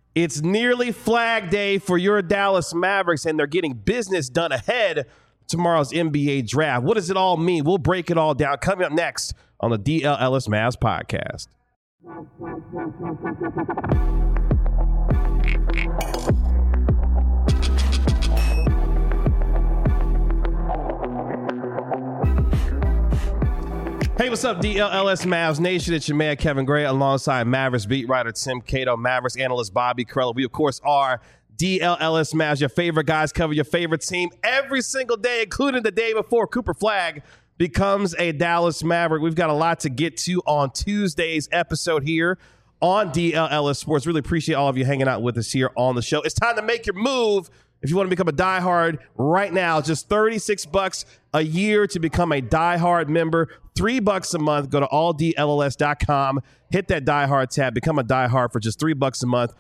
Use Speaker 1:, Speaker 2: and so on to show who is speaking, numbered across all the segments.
Speaker 1: It's nearly Flag Day for your Dallas Mavericks, and they're getting business done ahead of tomorrow's NBA draft. What does it all mean? We'll break it all down. Coming up next on the DL Ellis Mavs podcast. Hey, what's up, DLLS Mavs Nation? It's your man, Kevin Gray, alongside Mavericks beat writer Tim Cato, Mavericks analyst Bobby Carella. We, of course, are DLLS Mavs, your favorite guys cover your favorite team every single day, including the day before Cooper Flagg becomes a Dallas Maverick. We've got a lot to get to on Tuesday's episode here on DLLS Sports. Really appreciate all of you hanging out with us here on the show. It's time to make your move. If you want to become a diehard right now, just $36 a year to become a diehard member, $3 a month. Go to alldlls.com, hit that diehard tab, become a diehard for just $3 a month.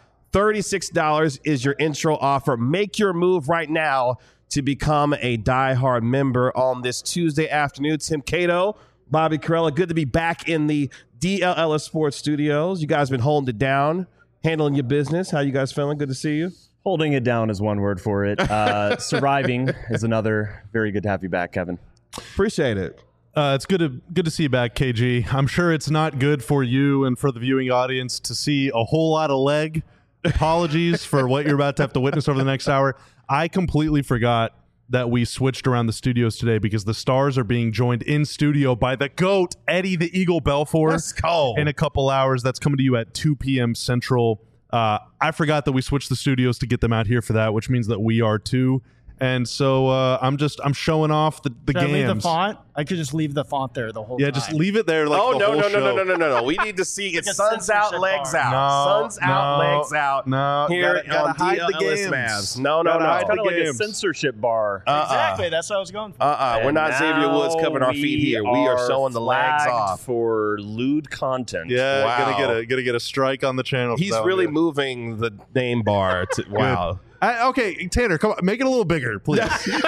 Speaker 1: $36 is your intro offer. Make your move right now to become a diehard member on this Tuesday afternoon. Tim Cato, Bobby Carella, good to be back in the DLLS Sports Studios. You guys been holding it down, handling your business. How you guys feeling? Good to see you.
Speaker 2: Holding it down is one word for it. Surviving is another. Very good to have you back, Kevin.
Speaker 1: Appreciate it.
Speaker 3: It's good to see you back, KG. I'm sure it's not good for you and for the viewing audience to see a whole lot of leg. Apologies for what you're about to have to witness over the next hour. I completely forgot that we switched around the studios today because the Stars are being joined in studio by the GOAT, Eddie the Eagle Belfour.
Speaker 1: Let's go.
Speaker 3: In a couple hours. That's coming to you at 2 p.m. Central. I forgot that we switched the studios to get them out here for that, which means that we are too. And so I'm showing off the
Speaker 4: Should I leave the
Speaker 3: gams.
Speaker 4: font? I could just leave the font there the whole time.
Speaker 3: Yeah, just leave it there. Like
Speaker 1: Oh,
Speaker 3: the
Speaker 1: no,
Speaker 3: whole
Speaker 1: no,
Speaker 3: show.
Speaker 1: no. We need to see it's
Speaker 4: Like a
Speaker 1: suns out,
Speaker 4: censorship
Speaker 1: legs
Speaker 4: bar.
Speaker 1: out.
Speaker 3: No,
Speaker 1: Suns out,
Speaker 3: no,
Speaker 1: legs out.
Speaker 3: no.
Speaker 1: Here
Speaker 3: Gotta
Speaker 1: on
Speaker 3: hide the
Speaker 1: DLLS
Speaker 3: games.
Speaker 1: Mavs. No.
Speaker 3: Gotta hide
Speaker 2: Kind of like a
Speaker 3: games.
Speaker 2: censorship bar.
Speaker 4: Exactly. That's what I was going for.
Speaker 1: We're
Speaker 2: And
Speaker 1: not Xavier Woods
Speaker 2: now
Speaker 1: covering our feet here. We are showing the legs
Speaker 2: flagged
Speaker 1: off.
Speaker 2: for lewd content.
Speaker 3: Yeah,
Speaker 1: Wow.
Speaker 3: gonna get a strike on the channel. for
Speaker 1: He's
Speaker 3: that one,
Speaker 1: really
Speaker 3: dude.
Speaker 1: moving the name bar. Wow.
Speaker 3: Okay, Tanner, come on, make it a little bigger, please.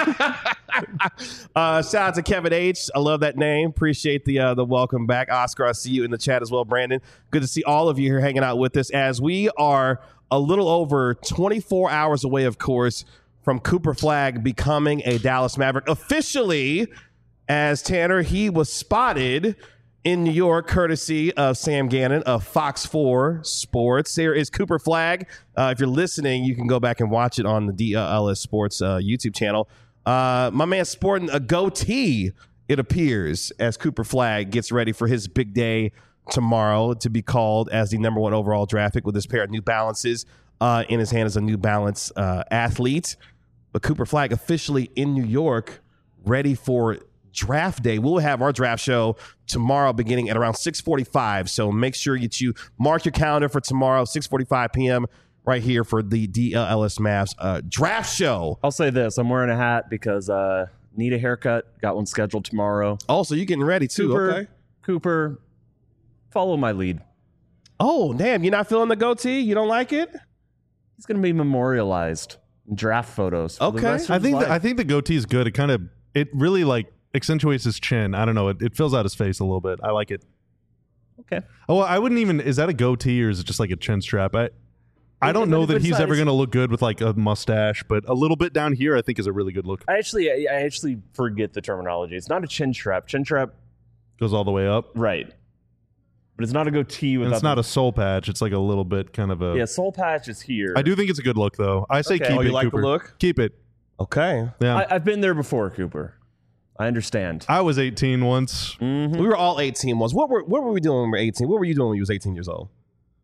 Speaker 1: Shout out to Kevin H. I love that name. Appreciate the welcome back. Oscar, I see you in the chat as well, Brandon. Good to see all of you here hanging out with us as we are a little over 24 hours away, of course, from Cooper Flagg becoming a Dallas Maverick. Officially, as Tanner, he was spotted in New York, courtesy of Sam Gannon of Fox 4 Sports. There is Cooper Flagg. If you're listening, you can go back and watch it on the DLS Sports YouTube channel. My man sporting a goatee, it appears, as Cooper Flagg gets ready for his big day tomorrow to be called as the number 1 overall draft pick with this pair of New Balances in his hand as a New Balance athlete. But Cooper Flagg officially in New York, ready for draft day. We'll have our draft show tomorrow beginning at around 6:45. So make sure you mark your calendar for tomorrow, 6:45 p.m. right here for the DLLS Mavs draft show.
Speaker 2: I'll say this. I'm wearing a hat because need a haircut. Got one scheduled tomorrow.
Speaker 1: Also, you getting ready too, okay?
Speaker 2: Cooper, follow my lead.
Speaker 1: Oh, damn. You're not feeling the goatee? You don't like it?
Speaker 2: He's going to be memorialized in draft photos. For the
Speaker 1: Okay.
Speaker 2: rest of
Speaker 3: I
Speaker 2: his
Speaker 3: think
Speaker 2: life.
Speaker 3: I think the goatee is good. It really like accentuates his chin. I don't know. It fills out his face a little bit. I like it.
Speaker 2: Okay.
Speaker 3: Oh, I wouldn't even. Is that a goatee or is it just like a chin strap? I don't know that he's ever going to look good with like a mustache, but a little bit down here, I think, is a really good look.
Speaker 2: I actually forget the terminology. It's not a chin strap. Chin strap,
Speaker 3: Goes all the way up.
Speaker 2: right? But it's not a goatee
Speaker 3: And
Speaker 2: without.
Speaker 3: it's not a soul patch. It's like a little bit kind of a.
Speaker 2: Yeah, soul patch is here.
Speaker 3: I do think it's a good look, though. I say
Speaker 2: Okay.
Speaker 3: keep
Speaker 2: Oh,
Speaker 3: it,
Speaker 1: you like the
Speaker 3: Cooper.
Speaker 1: look?
Speaker 3: Keep it.
Speaker 1: Okay.
Speaker 3: Yeah.
Speaker 2: I've been there before, Cooper. I understand.
Speaker 3: I was 18 once.
Speaker 1: We were all 18 once. What were we doing when we were 18? What were you doing when you was 18 years old?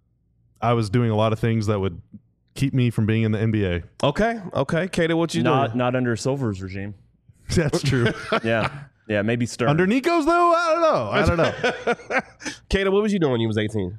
Speaker 3: I was doing a lot of things that would keep me from being in the NBA.
Speaker 1: Okay. Kato, what you doing?
Speaker 2: Not under Silver's regime.
Speaker 3: That's true.
Speaker 2: Yeah, maybe Stern.
Speaker 3: Under Nico's, though? I don't know.
Speaker 1: Kato, what was you doing when you was 18?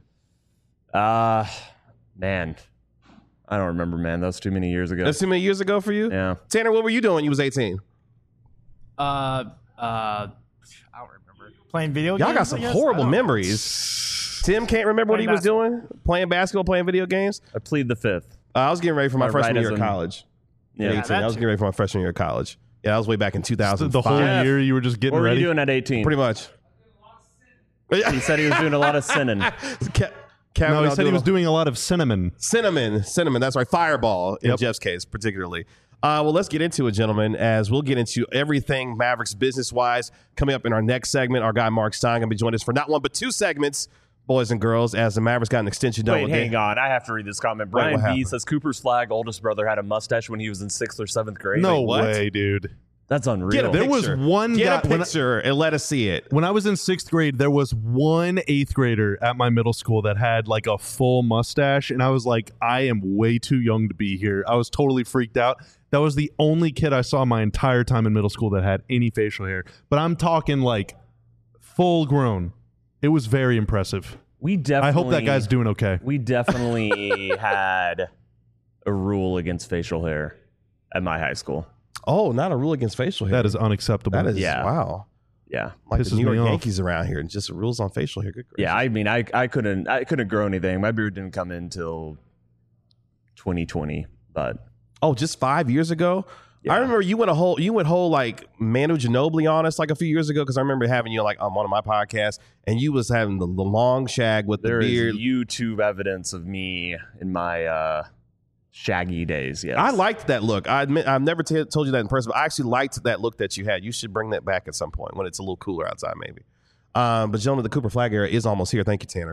Speaker 2: Man, I don't remember, man. That was too many years ago.
Speaker 1: That's too many years ago for you?
Speaker 2: Yeah.
Speaker 1: Tanner, what were you doing when you was 18?
Speaker 4: I don't remember. Playing video games?
Speaker 1: Y'all got some
Speaker 4: I guess?
Speaker 1: horrible
Speaker 4: I don't know.
Speaker 1: memories. Tim can't remember what
Speaker 4: Playing
Speaker 1: he was doing? Playing basketball, playing video games?
Speaker 2: I plead the fifth.
Speaker 1: I was getting ready for my
Speaker 2: My
Speaker 1: freshman year of
Speaker 2: rightism.
Speaker 1: college.
Speaker 2: Yeah.
Speaker 1: 18. I was getting ready for my freshman year of college. Yeah, that was way back in 2005.
Speaker 3: The whole
Speaker 2: Yeah.
Speaker 3: year you were just getting
Speaker 2: What were
Speaker 3: ready.
Speaker 2: you doing at 18?
Speaker 1: Pretty much.
Speaker 2: He said he was doing a lot of sinning.
Speaker 1: Kevin,
Speaker 3: No, he
Speaker 1: I'll
Speaker 3: said
Speaker 1: do
Speaker 3: he was
Speaker 1: a-
Speaker 3: doing a lot of cinnamon.
Speaker 1: Cinnamon. That's right. Fireball in Jeff's case, particularly. Well, let's get into it, gentlemen, as we'll get into everything Mavericks business-wise. Coming up in our next segment, our guy Mark Stein going to be joining us for not one but two segments, boys and girls, as the Mavericks got an extension done.
Speaker 2: Wait, hang on. I have to read this comment.
Speaker 1: Wait, what
Speaker 2: Brian B
Speaker 1: happened?
Speaker 2: says Cooper's Flag oldest brother had a mustache when he was in 6th or 7th grade.
Speaker 3: No
Speaker 2: Wait, what?
Speaker 3: way, dude.
Speaker 2: That's unreal.
Speaker 1: Get a
Speaker 3: There was
Speaker 1: picture.
Speaker 3: one
Speaker 1: Get
Speaker 3: guy-
Speaker 1: a picture and let us see it.
Speaker 3: When I was in 6th grade, there was one 8th grader at my middle school that had like a full mustache. And I was like, I am way too young to be here. I was totally freaked out. That was the only kid I saw my entire time in middle school that had any facial hair. But I'm talking like full grown. It was very impressive.
Speaker 2: We definitely.
Speaker 3: I hope that guy's doing okay.
Speaker 2: We definitely had a rule against facial hair at my high school.
Speaker 1: Oh, not a rule against facial hair.
Speaker 3: That is unacceptable.
Speaker 1: That is,
Speaker 2: Yeah.
Speaker 1: wow.
Speaker 2: Yeah.
Speaker 1: Like
Speaker 3: Pisses
Speaker 1: the New York
Speaker 3: me off.
Speaker 1: Yankees around here, and just rules on facial hair. Good gracious.
Speaker 2: Yeah, I mean, I couldn't grow anything. My beard didn't come in until 2020, but
Speaker 1: Oh, just 5 years ago?
Speaker 2: Yeah.
Speaker 1: I remember you went whole like Manu Ginobili on us like a few years ago because I remember having you like on one of my podcasts and you was having the long shag with
Speaker 2: there
Speaker 1: the
Speaker 2: is
Speaker 1: beard.
Speaker 2: YouTube evidence of me in my shaggy days. Yes,
Speaker 1: I liked that look. I admit I've never told you that in person, but I actually liked that look that you had. You should bring that back at some point when it's a little cooler outside, maybe. But gentlemen, the Cooper Flag era is almost here. Thank you, Tanner.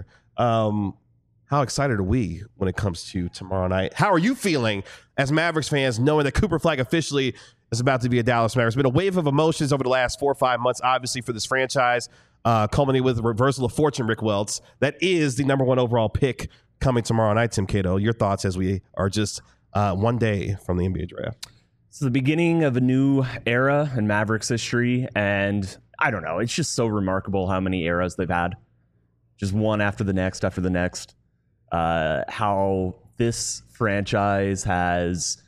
Speaker 1: How excited are we when it comes to tomorrow night? How are you feeling as Mavericks fans knowing that Cooper Flag officially is about to be a Dallas Mavericks? It's been a wave of emotions over the last 4 or 5 months, obviously, for this franchise, culminating with the reversal of fortune, Rick Welts. That is the number 1 overall pick coming tomorrow night, Tim Cato. Your thoughts as we are just one day from the NBA draft.
Speaker 2: It's the beginning of a new era in Mavericks history, and I don't know. It's just so remarkable how many eras they've had, just one after the next after the next. How this franchise has,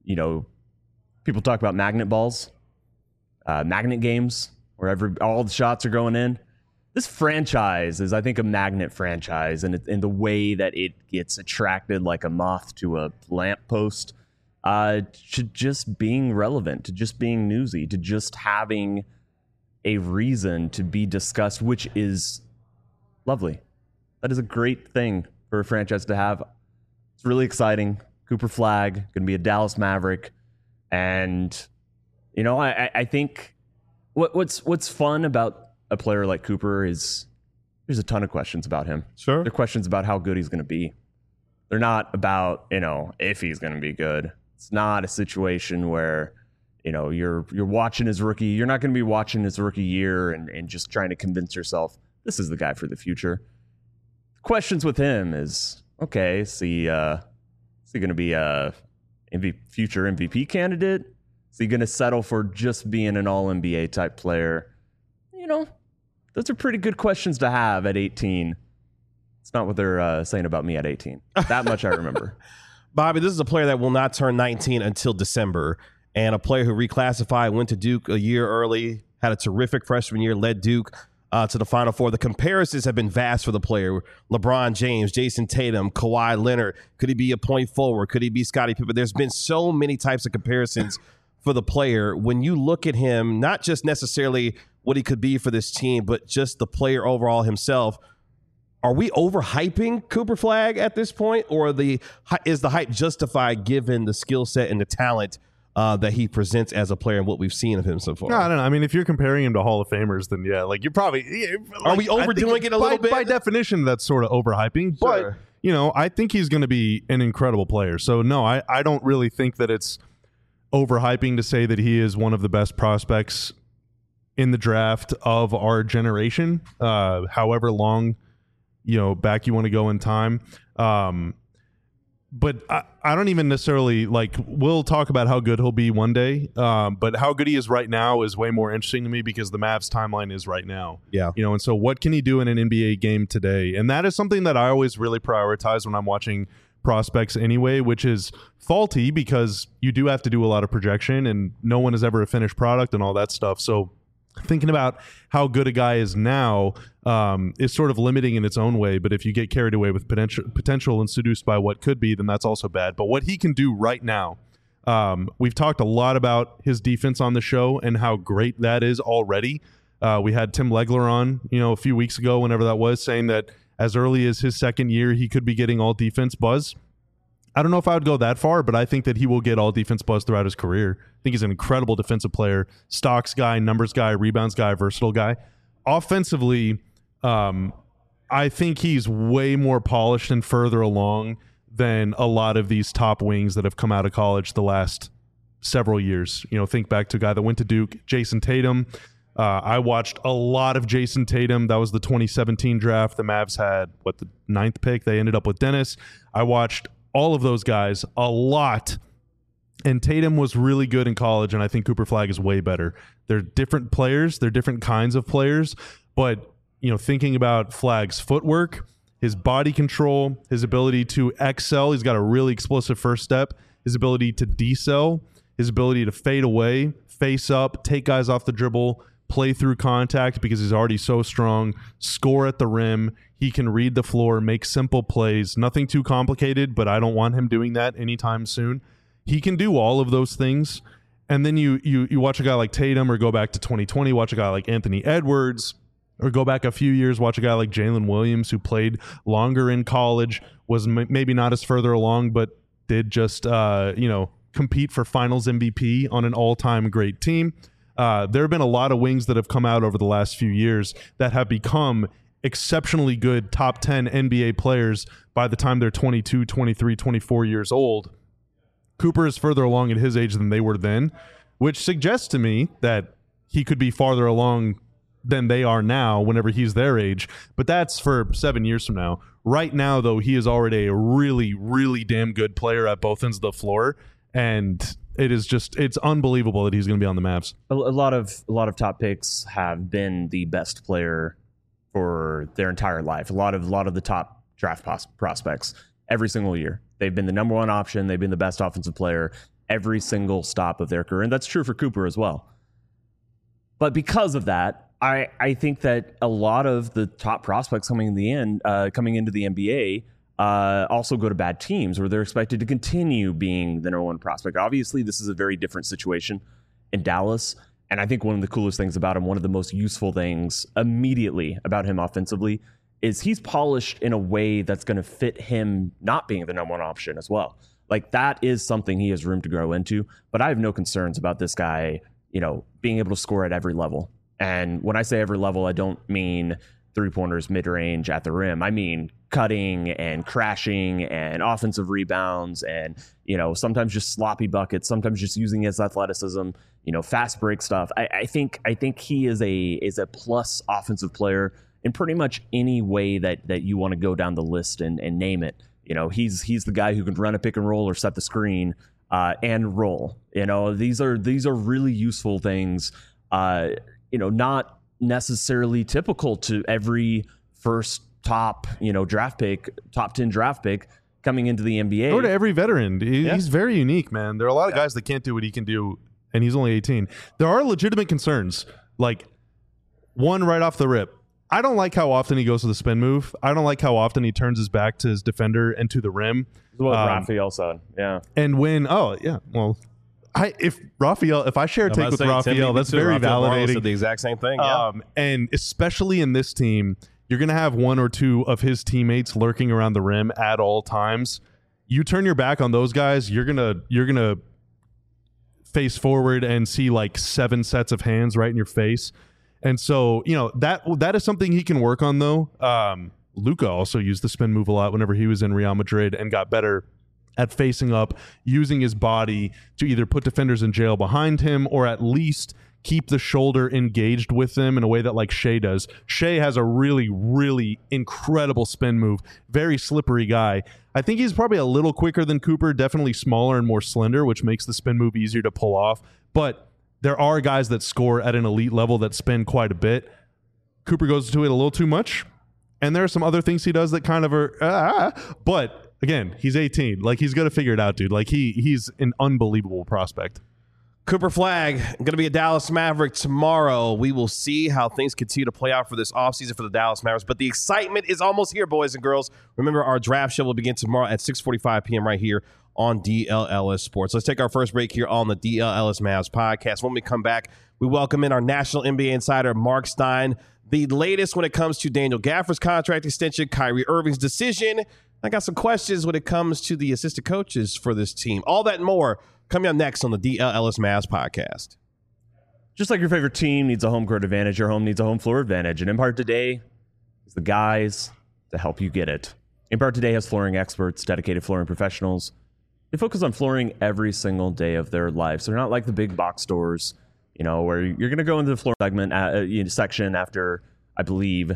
Speaker 2: people talk about magnet balls, magnet games, where all the shots are going in. This franchise is, I think, a magnet franchise, and in the way that it gets attracted like a moth to a lamppost, to just being relevant, to just being newsy, to just having a reason to be discussed, which is lovely. That is a great thing for a franchise to have. It's really exciting. Cooper Flag, going to be a Dallas Maverick. And, I think what's fun about a player like Cooper is there's a ton of questions about him.
Speaker 1: Sure.
Speaker 2: There are questions about how good he's going to be. They're not about, if he's going to be good. It's not a situation where, you're watching his rookie. You're not going to be watching his rookie year and just trying to convince yourself this is the guy for the future. The questions with him is, okay, is he going to be a future MVP candidate? Is he going to settle for just being an all-NBA type player? Those are pretty good questions to have at 18. It's not what they're saying about me at 18. That much I remember.
Speaker 1: Bobby, this is a player that will not turn 19 until December, and a player who reclassified, went to Duke a year early, had a terrific freshman year, led Duke to the Final Four. The comparisons have been vast for the player. LeBron James, Jason Tatum, Kawhi Leonard. Could he be a point forward? Could he be Scottie Pippen? There's been so many types of comparisons for the player. When you look at him, not just necessarily what he could be for this team, but just the player overall himself, are we overhyping Cooper Flag at this point, or is the hype justified given the skill set and the talent that he presents as a player and what we've seen of him so far?
Speaker 3: No, I don't know. I mean, if you're comparing him to Hall of Famers, then yeah, like you're probably.
Speaker 1: Are we overdoing it a little bit?
Speaker 3: By definition, that's sort of overhyping.
Speaker 1: Sure.
Speaker 3: But I think he's going to be an incredible player. So no, I don't really think that it's overhyping to say that he is one of the best prospects in the draft of our generation. However long back you want to go in time. But I don't even necessarily we'll talk about how good he'll be one day. But how good he is right now is way more interesting to me because the Mavs timeline is right now.
Speaker 1: Yeah.
Speaker 3: And so what can he do in an NBA game today? And that is something that I always really prioritize when I'm watching prospects anyway, which is faulty because you do have to do a lot of projection and no one is ever a finished product and all that stuff. So thinking about how good a guy is now is sort of limiting in its own way. But if you get carried away with potential and seduced by what could be, then that's also bad. But what he can do right now, we've talked a lot about his defense on the show and how great that is already. We had Tim Legler on, a few weeks ago, whenever that was, saying that as early as his second year, he could be getting all defense buzz. I don't know if I would go that far, but I think that he will get all defense buzz throughout his career. I think he's an incredible defensive player, stocks guy, numbers guy, rebounds guy, versatile guy. Offensively, I think he's way more polished and further along than a lot of these top wings that have come out of college the last several years. Think back to a guy that went to Duke, Jason Tatum. I watched a lot of Jason Tatum. That was the 2017 draft. The Mavs had, the 9th pick? They ended up with Dennis. I watched all of those guys a lot. And Tatum was really good in college, and I think Cooper Flagg is way better. They're different players. They're different kinds of players. But, thinking about Flagg's footwork, his body control, his ability to excel, he's got a really explosive first step, his ability to decel, his ability to fade away, face up, take guys off the dribble, play through contact because he's already so strong, score at the rim. He can read the floor, make simple plays, nothing too complicated, but I don't want him doing that anytime soon. He can do all of those things. And then you watch a guy like Tatum, or go back to 2020, watch a guy like Anthony Edwards, or go back a few years, watch a guy like Jalen Williams, who played longer in college, was maybe not as further along, but did just, compete for finals MVP on an all-time great team. There have been a lot of wings that have come out over the last few years that have become exceptionally good top 10 NBA players by the time they're 22, 23, 24 years old. Cooper is further along at his age than they were then, which suggests to me that he could be farther along than they are now whenever he's their age. But that's for 7 years from now. Right now, though, he is already a really, really damn good player at both ends of the floor. And it's unbelievable that he's going to be on the Mavs.
Speaker 2: A lot of top picks have been the best player for their entire life. A lot of the top draft prospects every single year. They've been the number one option. They've been the best offensive player every single stop of their career. And that's true for Cooper as well. But because of that, I think that a lot of the top prospects coming into the NBA also go to bad teams where they're expected to continue being the number one prospect. Obviously, this is a very different situation in Dallas. And I think one of the coolest things about him, one of the most useful things immediately about him offensively, is he's polished in a way that's going to fit him not being the number one option as well. Like, that is something he has room to grow into. But I have no concerns about this guy, being able to score at every level. And when I say every level, I don't mean three-pointers, mid-range, at the rim. I mean cutting and crashing and offensive rebounds and, sometimes just sloppy buckets, sometimes just using his athleticism, fast break stuff. I think he is a plus offensive player in pretty much any way that you want to go down the list and name it. He's the guy who can run a pick and roll or set the screen and roll. These are really useful things. Not necessarily typical to every first top 10 draft pick coming into the NBA.
Speaker 3: Or to every veteran. He's very unique, man. There are a lot of guys that can't do what he can do, and he's only 18. There are legitimate concerns. Like, one right off the rip, I don't like how often he goes to the spin move. I don't like how often he turns his back to his defender and to the rim.
Speaker 2: What Raphael said, yeah.
Speaker 3: And when, if I share a take with Raphael, that's very validating.
Speaker 1: Said the exact same thing. Yeah.
Speaker 3: And especially in this team, you're going to have one or two of his teammates lurking around the rim at all times. You turn your back on those guys, you're gonna face forward and see like 7 sets of hands right in your face. And so, that is something he can work on, though. Luka also used the spin move a lot whenever he was in Real Madrid and got better at facing up, using his body to either put defenders in jail behind him or at least keep the shoulder engaged with them in a way that like Shea does. Shea has a really, really incredible spin move. Very slippery guy. I think he's probably a little quicker than Cooper, definitely smaller and more slender, which makes the spin move easier to pull off. But there are guys that score at an elite level that spin quite a bit. Cooper goes to it a little too much. And there are some other things he does that kind of are, but again, he's 18. Like, he's going to figure it out, dude. Like, he's an unbelievable prospect.
Speaker 1: Cooper Flagg going to be a Dallas Maverick tomorrow. We will see how things continue to play out for this offseason for the Dallas Mavericks. But the excitement is almost here, boys and girls. Remember, our draft show will begin tomorrow at 6:45 p.m. right here on DLLS Sports. Let's take our first break here on the DLLS Mavs podcast. When we come back, we welcome in our national NBA insider, Mark Stein. the latest when it comes to Daniel Gafford's contract extension, Kyrie Irving's decision. I got some questions when it comes to the assistant coaches for this team. All that and more coming up next on the DL Ellis Mavs podcast.
Speaker 2: Just like your favorite team needs a home court advantage, your home needs a home floor advantage. And Empire Today is the guys to help you get it. Empire Today has flooring experts, dedicated flooring professionals. They focus on flooring every single day of their lives. They're not like the big box stores, where you're going to go into the floor section after, I believe,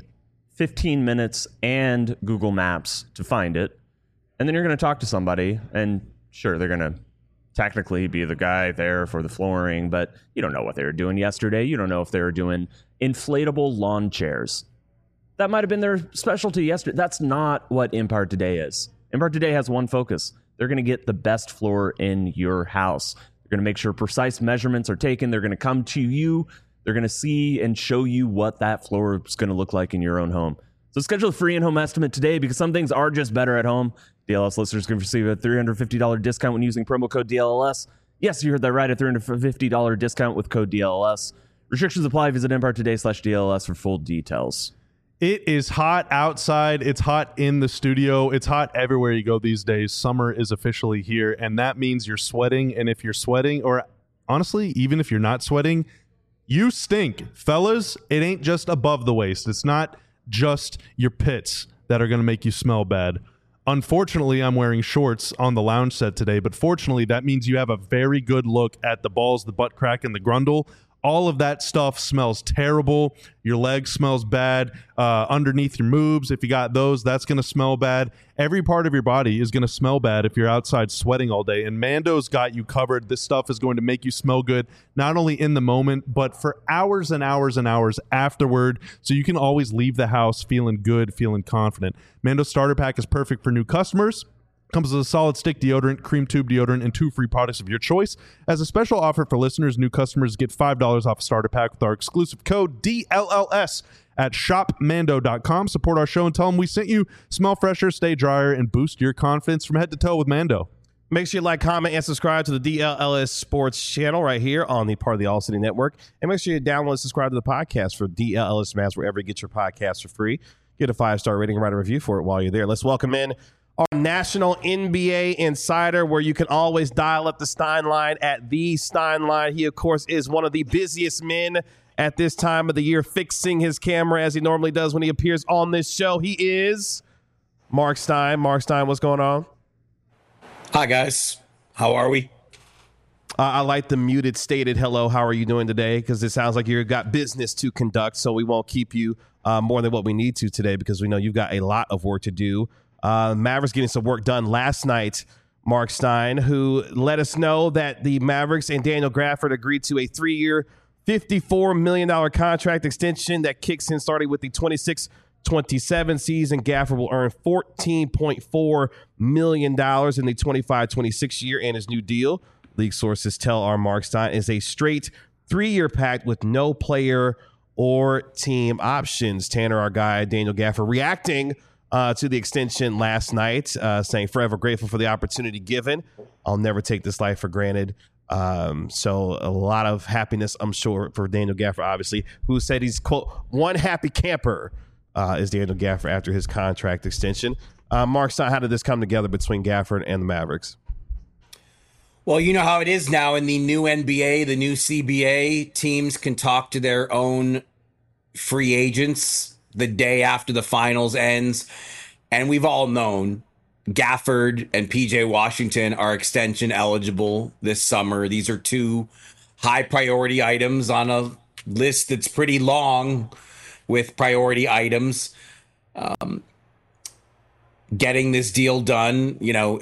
Speaker 2: 15 minutes and Google Maps to find it. And then you're going to talk to somebody, and sure, they're going to technically be the guy there for the flooring, but you don't know what they were doing yesterday. You don't know if they were doing inflatable lawn chairs. That might have been their specialty yesterday. That's not what Empire Today is. Empire Today has one focus. They're going to get the best floor in your house. They're going to make sure precise measurements are taken. They're going to come to you. They're going to see and show you what that floor is going to look like in your own home. So schedule a free in-home estimate today because some things are just better at home. DLS listeners can receive a $350 discount when using promo code DLLS. Yes, you heard that right, a $350 discount with code DLLS. Restrictions apply. Visit EmpireToday.com/DLLS for full details.
Speaker 3: It is hot outside. It's hot in the studio. It's hot everywhere you go these days. Summer is officially here, and that means you're sweating. And if you're sweating, or honestly, even if you're not sweating, you stink. Fellas, it ain't just above the waist. It's not just your pits that are going to make you smell bad. Unfortunately, I'm wearing shorts on the lounge set today, but fortunately, that means you have a very good look at the balls, the butt crack, and the grundle. All of that stuff smells terrible. Your leg smells bad. Underneath your moobs, if you got those, that's going to smell bad. Every part of your body is going to smell bad if you're outside sweating all day. And Mando's got you covered. This stuff is going to make you smell good, not only in the moment, but for hours and hours and hours afterward. So you can always leave the house feeling good, feeling confident. Mando's starter pack is perfect for new customers. Comes with a solid stick deodorant, cream tube deodorant, and 2 free products of your choice. As a special offer for listeners, new customers get $5 off a starter pack with our exclusive code DLLS at shopmando.com. Support our show and tell them we sent you. Smell fresher, stay drier, and boost your confidence from head to toe with Mando.
Speaker 1: Make sure you like, comment, and subscribe to the DLLS Sports channel right here on the part of the All City Network. And make sure you download and subscribe to the podcast for DLLS Mavs wherever you get your podcasts for free. Get a 5-star rating and write a review for it while you're there. Let's welcome in our national NBA insider, where you can always dial up the Stein line at the Stein line. He, of course, is one of the busiest men at this time of the year, fixing his camera as he normally does when he appears on this show. He is Mark Stein. Mark Stein, what's going on?
Speaker 5: Hi, guys. How are we?
Speaker 1: I like the muted stated hello. How are you doing today? Because it sounds like you've got business to conduct, so we won't keep you more than what we need to today because we know you've got a lot of work to do. Mavericks getting some work done last night, Mark Stein, who let us know that the Mavericks and Daniel Gafford agreed to a 3-year, $54 million contract extension that kicks in starting with the 26-27 season. Gafford will earn $14.4 million in the 25-26 year, and his new deal, league sources tell our Mark Stein, is a straight 3-year pact with no player or team options. Tanner, our guy, Daniel Gafford, reacting to the extension last night, saying forever grateful for the opportunity given. I'll never take this life for granted. So a lot of happiness, I'm sure, for Daniel Gafford, obviously, who said he's, quote, one happy camper is Daniel Gafford after his contract extension. Mark Stein, how did this come together between Gafford and the Mavericks?
Speaker 5: Well, you know how it is now in the new NBA, the new CBA. Teams can talk to their own free agents the day after the finals ends. And we've all known Gafford and PJ Washington are extension eligible this summer. These are 2 high priority items on a list that's pretty long with priority items. Getting this deal done,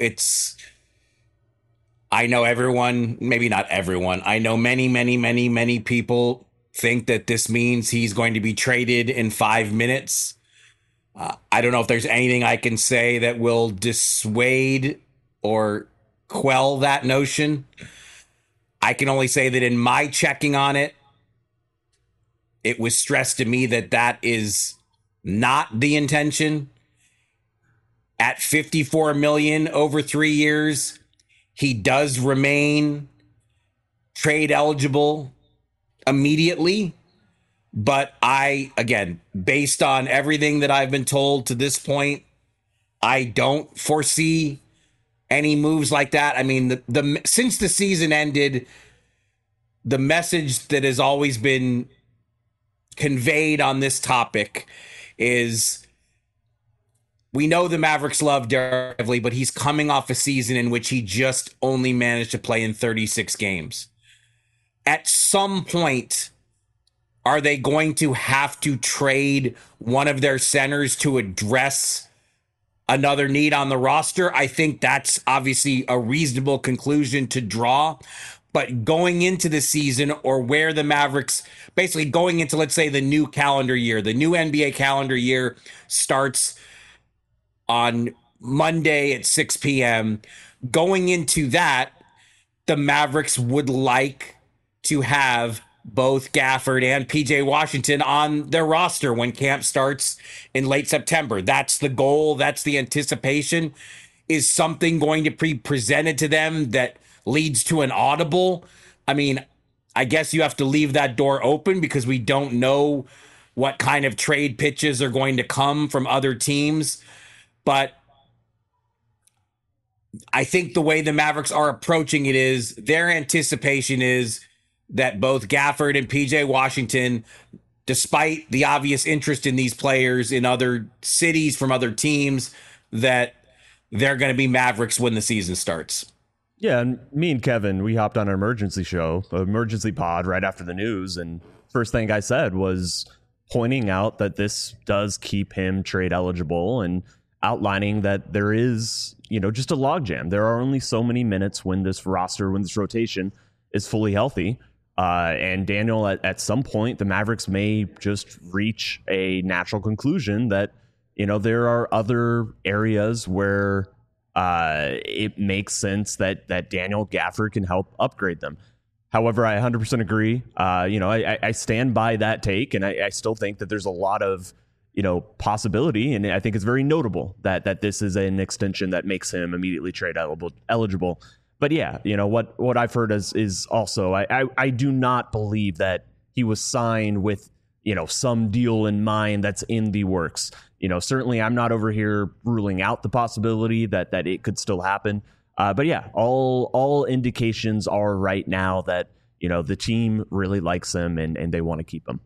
Speaker 5: I know everyone, maybe not everyone. I know many people think that this means he's going to be traded in 5 minutes. I don't know if there's anything I can say that will dissuade or quell that notion. I can only say that in my checking on it, it was stressed to me that that is not the intention. At $54 million over 3 years, he does remain trade eligible immediately. But again, based on everything that I've been told to this point, I don't foresee any moves like that. I mean, since the season ended, the message that has always been conveyed on this topic is we know the Mavericks love Derek Lively, but he's coming off a season in which he just only managed to play in 36 games. At some point, are they going to have to trade one of their centers to address another need on the roster? I think that's obviously a reasonable conclusion to draw. But going into the season, or where the Mavericks, basically going into, let's say, the new calendar year, the new NBA calendar year starts on Monday at 6 p.m. Going into that, the Mavericks would like to have both Gafford and PJ Washington on their roster when camp starts in late September. That's the goal. That's the anticipation. Is something going to be presented to them that leads to an audible? I mean, I guess you have to leave that door open because we don't know what kind of trade pitches are going to come from other teams. But I think the way the Mavericks are approaching it is their anticipation is that both Gafford and PJ Washington, despite the obvious interest in these players in other cities from other teams, that they're going to be Mavericks when the season starts.
Speaker 2: Yeah, and me and Kevin, we hopped on an emergency pod right after the news, and first thing I said was pointing out that this does keep him trade eligible and outlining that there is, just a logjam. There are only so many minutes when this rotation is fully healthy. And Daniel, at some point, the Mavericks may just reach a natural conclusion that, there are other areas where it makes sense that Daniel Gafford can help upgrade them. However, I 100% agree. I stand by that take, and I still think that there's a lot of, possibility. And I think it's very notable that this is an extension that makes him immediately trade eligible. But yeah, what I've heard is also, I do not believe that he was signed with, some deal in mind that's in the works. Certainly I'm not over here ruling out the possibility that it could still happen. But yeah, all indications are right now that, the team really likes him and they want to keep him.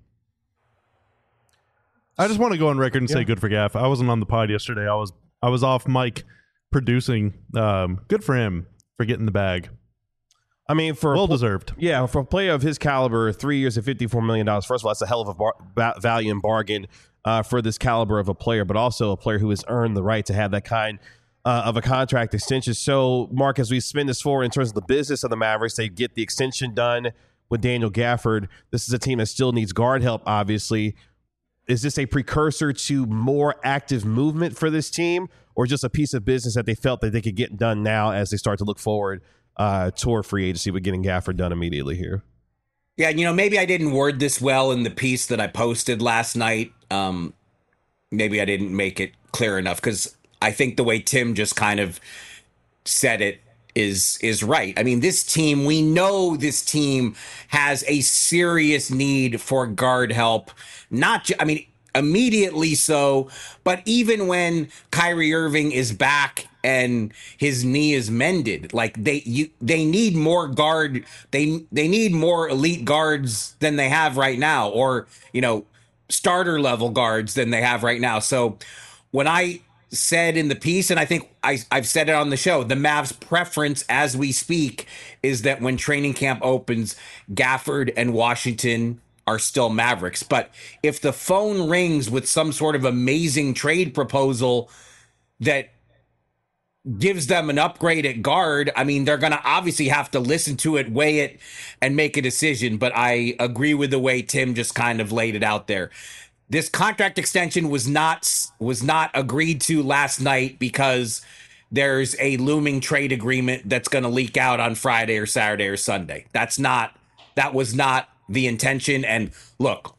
Speaker 3: I just want to go on record and say good for Gaff. I wasn't on the pod yesterday. I was off mic producing. Good for him for getting the bag.
Speaker 1: I mean,
Speaker 3: well-deserved.
Speaker 1: Yeah, for a player of his caliber, 3 years and $54 million, first of all, that's a hell of a value and bargain for this caliber of a player, but also a player who has earned the right to have that kind of a contract extension. So, Mark, as we spin this forward in terms of the business of the Mavericks, they get the extension done with Daniel Gafford. This is a team that still needs guard help, obviously. Is this a precursor to more active movement for this team, or just a piece of business that they felt that they could get done now as they start to look forward toward free agency with getting Gafford done immediately here?
Speaker 5: Yeah, maybe I didn't word this well in the piece that I posted last night. Maybe I didn't make it clear enough, because I think the way Tim just kind of said it is right. I mean, we know this team has a serious need for guard help. Immediately so, but even when Kyrie Irving is back and his knee is mended, like they need more guard. They need more elite guards than they have right now, or starter level guards than they have right now. So when I said in the piece, and I think I've said it on the show, the Mavs' preference as we speak is that when training camp opens, Gafford and Washington are still Mavericks. But if the phone rings with some sort of amazing trade proposal that gives them an upgrade at guard, I mean, they're going to obviously have to listen to it, weigh it, and make a decision. But I agree with the way Tim just kind of laid it out there. This contract extension was not agreed to last night because there's a looming trade agreement that's going to leak out on Friday or Saturday or Sunday. That was not the intention. And look,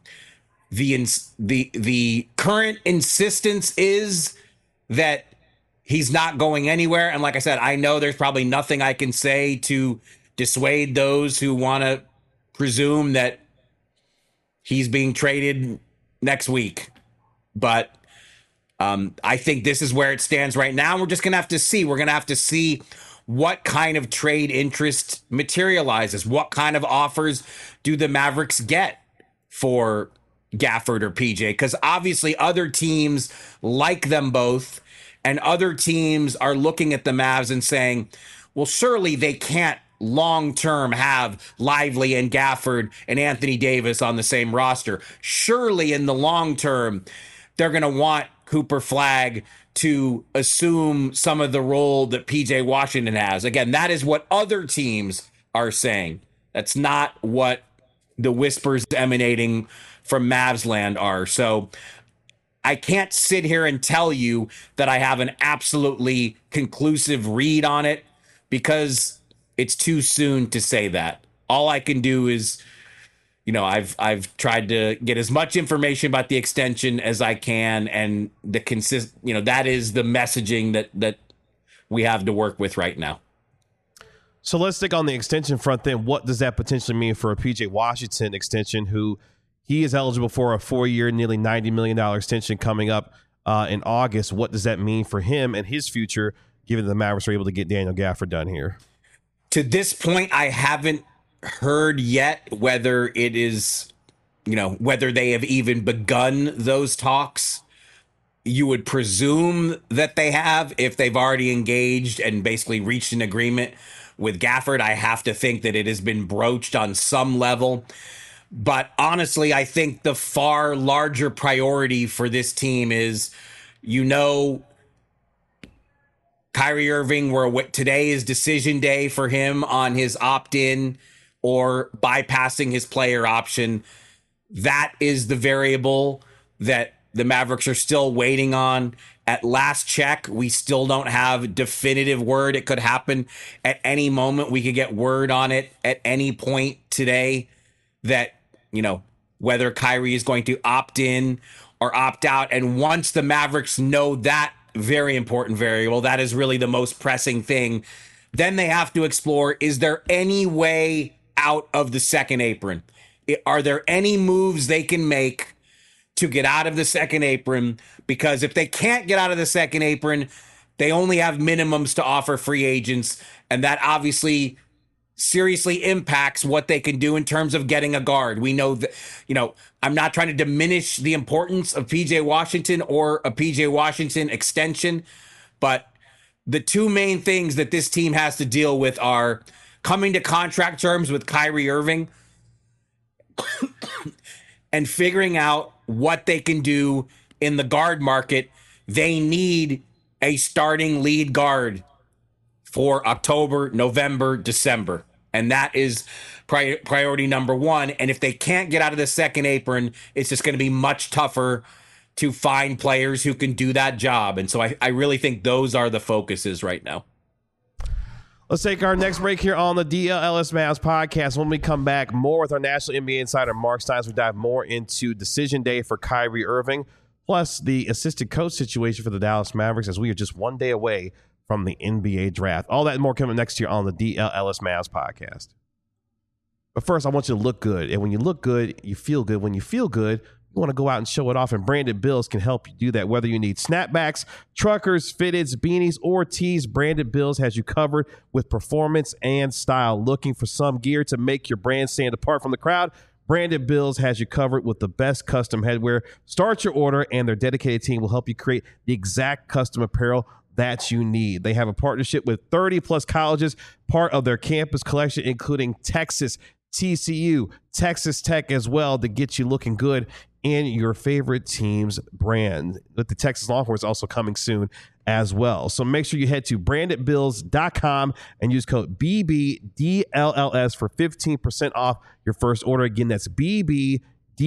Speaker 5: the current insistence is that he's not going anywhere. And like I said, I know there's probably nothing I can say to dissuade those who want to presume that he's being traded next week. But I think this is where it stands right now. We're just going to have to see. We're going to have to see what kind of trade interest materializes. What kind of offers do the Mavericks get for Gafford or PJ? Because obviously other teams like them both, and other teams are looking at the Mavs and saying, well, surely they can't long-term have Lively and Gafford and Anthony Davis on the same roster. Surely in the long term, they're going to want Cooper Flagg to assume some of the role that PJ Washington has. Again, that is what other teams are saying. That's not what the whispers emanating from Mavs land are. So I can't sit here and tell you that I have an absolutely conclusive read on it, because it's too soon to say that. All I can do is, I've tried to get as much information about the extension as I can, and that is the messaging that we have to work with right now.
Speaker 1: So let's stick on the extension front then. What does that potentially mean for a PJ Washington extension, who he is eligible for a 4-year, nearly $90 million extension coming up in August? What does that mean for him and his future, given that the Mavericks are able to get Daniel Gafford done here?
Speaker 5: To this point, I haven't heard yet whether it is, whether they have even begun those talks. You would presume that they have, if they've already engaged and basically reached an agreement with Gafford. I have to think that it has been broached on some level. But honestly, I think the far larger priority for this team is, Kyrie Irving, today is decision day for him on his opt-in or bypassing his player option. That is the variable that the Mavericks are still waiting on. At last check, we still don't have definitive word. It could happen at any moment. We could get word on it at any point today that, whether Kyrie is going to opt in or opt out. And once the Mavericks know that very important variable, that is really the most pressing thing, then they have to explore, is there any way out of the second apron? Are there any moves they can make to get out of the second apron? Because if they can't get out of the second apron, they only have minimums to offer free agents, and that obviously seriously impacts what they can do in terms of getting a guard. We know that, I'm not trying to diminish the importance of PJ Washington or a PJ Washington extension, but the two main things that this team has to deal with are coming to contract terms with Kyrie Irving and figuring out what they can do in the guard market. They need a starting lead guard for October, November, December. And that is priority number one. And if they can't get out of the second apron, it's just going to be much tougher to find players who can do that job. And so I really think those are the focuses right now.
Speaker 1: Let's take our next break here on the DLLS Mavs podcast. When we come back, more with our national NBA insider, Mark Steins. We dive more into decision day for Kyrie Irving, plus the assistant coach situation for the Dallas Mavericks, as we are just one day away from the NBA draft. All that and more coming next year on the DLLS Mavs podcast. But first, I want you to look good. And when you look good, you feel good. When you feel good, you want to go out and show it off, and Branded Bills can help you do that. Whether you need snapbacks, truckers, fitteds, beanies, or tees, Branded Bills has you covered with performance and style. Looking for some gear to make your brand stand apart from the crowd? Branded Bills has you covered with the best custom headwear. Start your order, and their dedicated team will help you create the exact custom apparel that you need. They have a partnership with 30-plus colleges, part of their campus collection, including Texas, TCU, Texas Tech as well, to get you looking good in your favorite team's brand. With the Texas Longhorns also coming soon as well. So make sure you head to brandedbills.com and use code BBDLLS for 15% off your first order. Again, that's BBDLS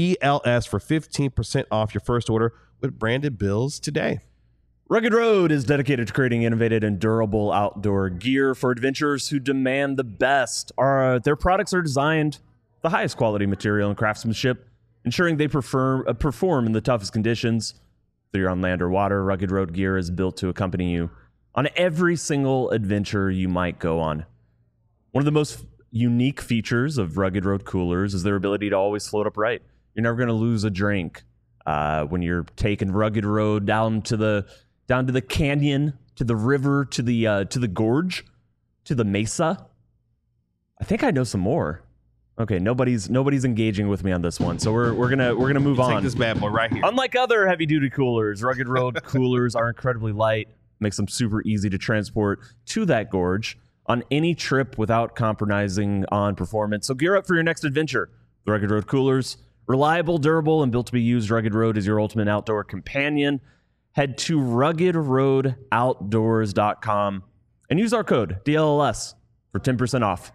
Speaker 1: for 15% off your first order with Branded Bills today.
Speaker 2: Rugged Road is dedicated to creating innovative and durable outdoor gear for adventurers who demand the best. Their products are designed the highest quality material and craftsmanship, ensuring they perform in the toughest conditions. Whether you're on land or water, Rugged Road gear is built to accompany you on every single adventure you might go on. One of the most unique features of Rugged Road coolers is their ability to always float upright, You're never going to lose a drink when you're taking Rugged Road down to the canyon, to the river, to the gorge, to the mesa. I think I know some more. Okay, nobody's engaging with me on this one, so we're gonna move on.
Speaker 1: Take this bad boy right here.
Speaker 2: Unlike other heavy duty coolers, Rugged Road coolers are incredibly light, makes them super easy to transport to that gorge on any trip without compromising on performance. So gear up for your next adventure. The Rugged Road coolers, reliable, durable, and built to be used. Rugged Road is your ultimate outdoor companion. Head to ruggedroadoutdoors.com and use our code DLLS for 10% off.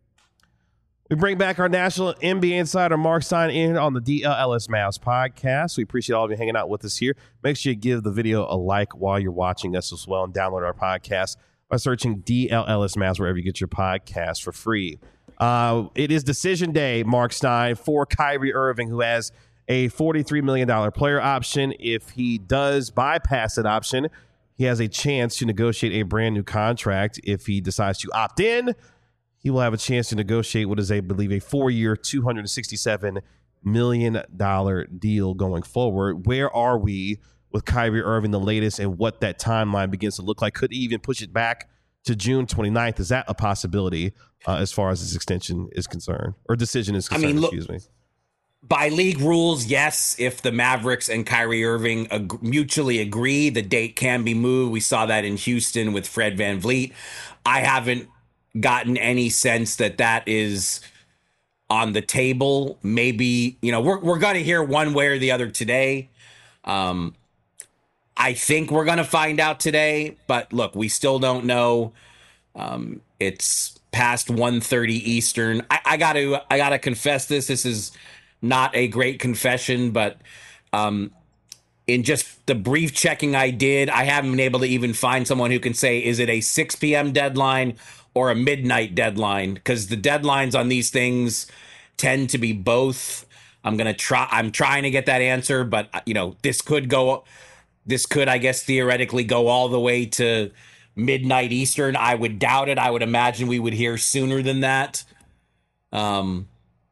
Speaker 1: We bring back our national NBA insider, Mark Stein, in on the DLLS Mavs podcast. We appreciate all of you hanging out with us here. Make sure you give the video a like while you're watching us as well, and download our podcast by searching DLLS Mavs wherever you get your podcast for free. It is decision day, Mark Stein, for Kyrie Irving, who has a $43 million player option. If he does bypass that option, he has a chance to negotiate a brand new contract. If he decides to opt in, he will have a chance to negotiate what is, I believe, a 4-year, $267 million deal going forward. Where are we with Kyrie Irving, the latest, and what that timeline begins to look like? Could he even push it back to June 29th? Is that a possibility as far as this extension is concerned, or decision is concerned? Excuse me.
Speaker 5: By league rules, yes. If the Mavericks and Kyrie Irving mutually agree, the date can be moved. We saw that in Houston with Fred VanVleet. I haven't gotten any sense that is on the table. Maybe, we're going to hear one way or the other today. I think we're going to find out today, but look, we still don't know. It's past 1:30 Eastern. I gotta confess this. This is not a great confession, but in just the brief checking I did, I haven't been able to even find someone who can say, is it a 6 p.m. deadline or a midnight deadline? Because the deadlines on these things tend to be both. I'm trying to get that answer, but this could, I guess, theoretically go all the way to midnight Eastern. I would doubt it. I would imagine we would hear sooner than that. But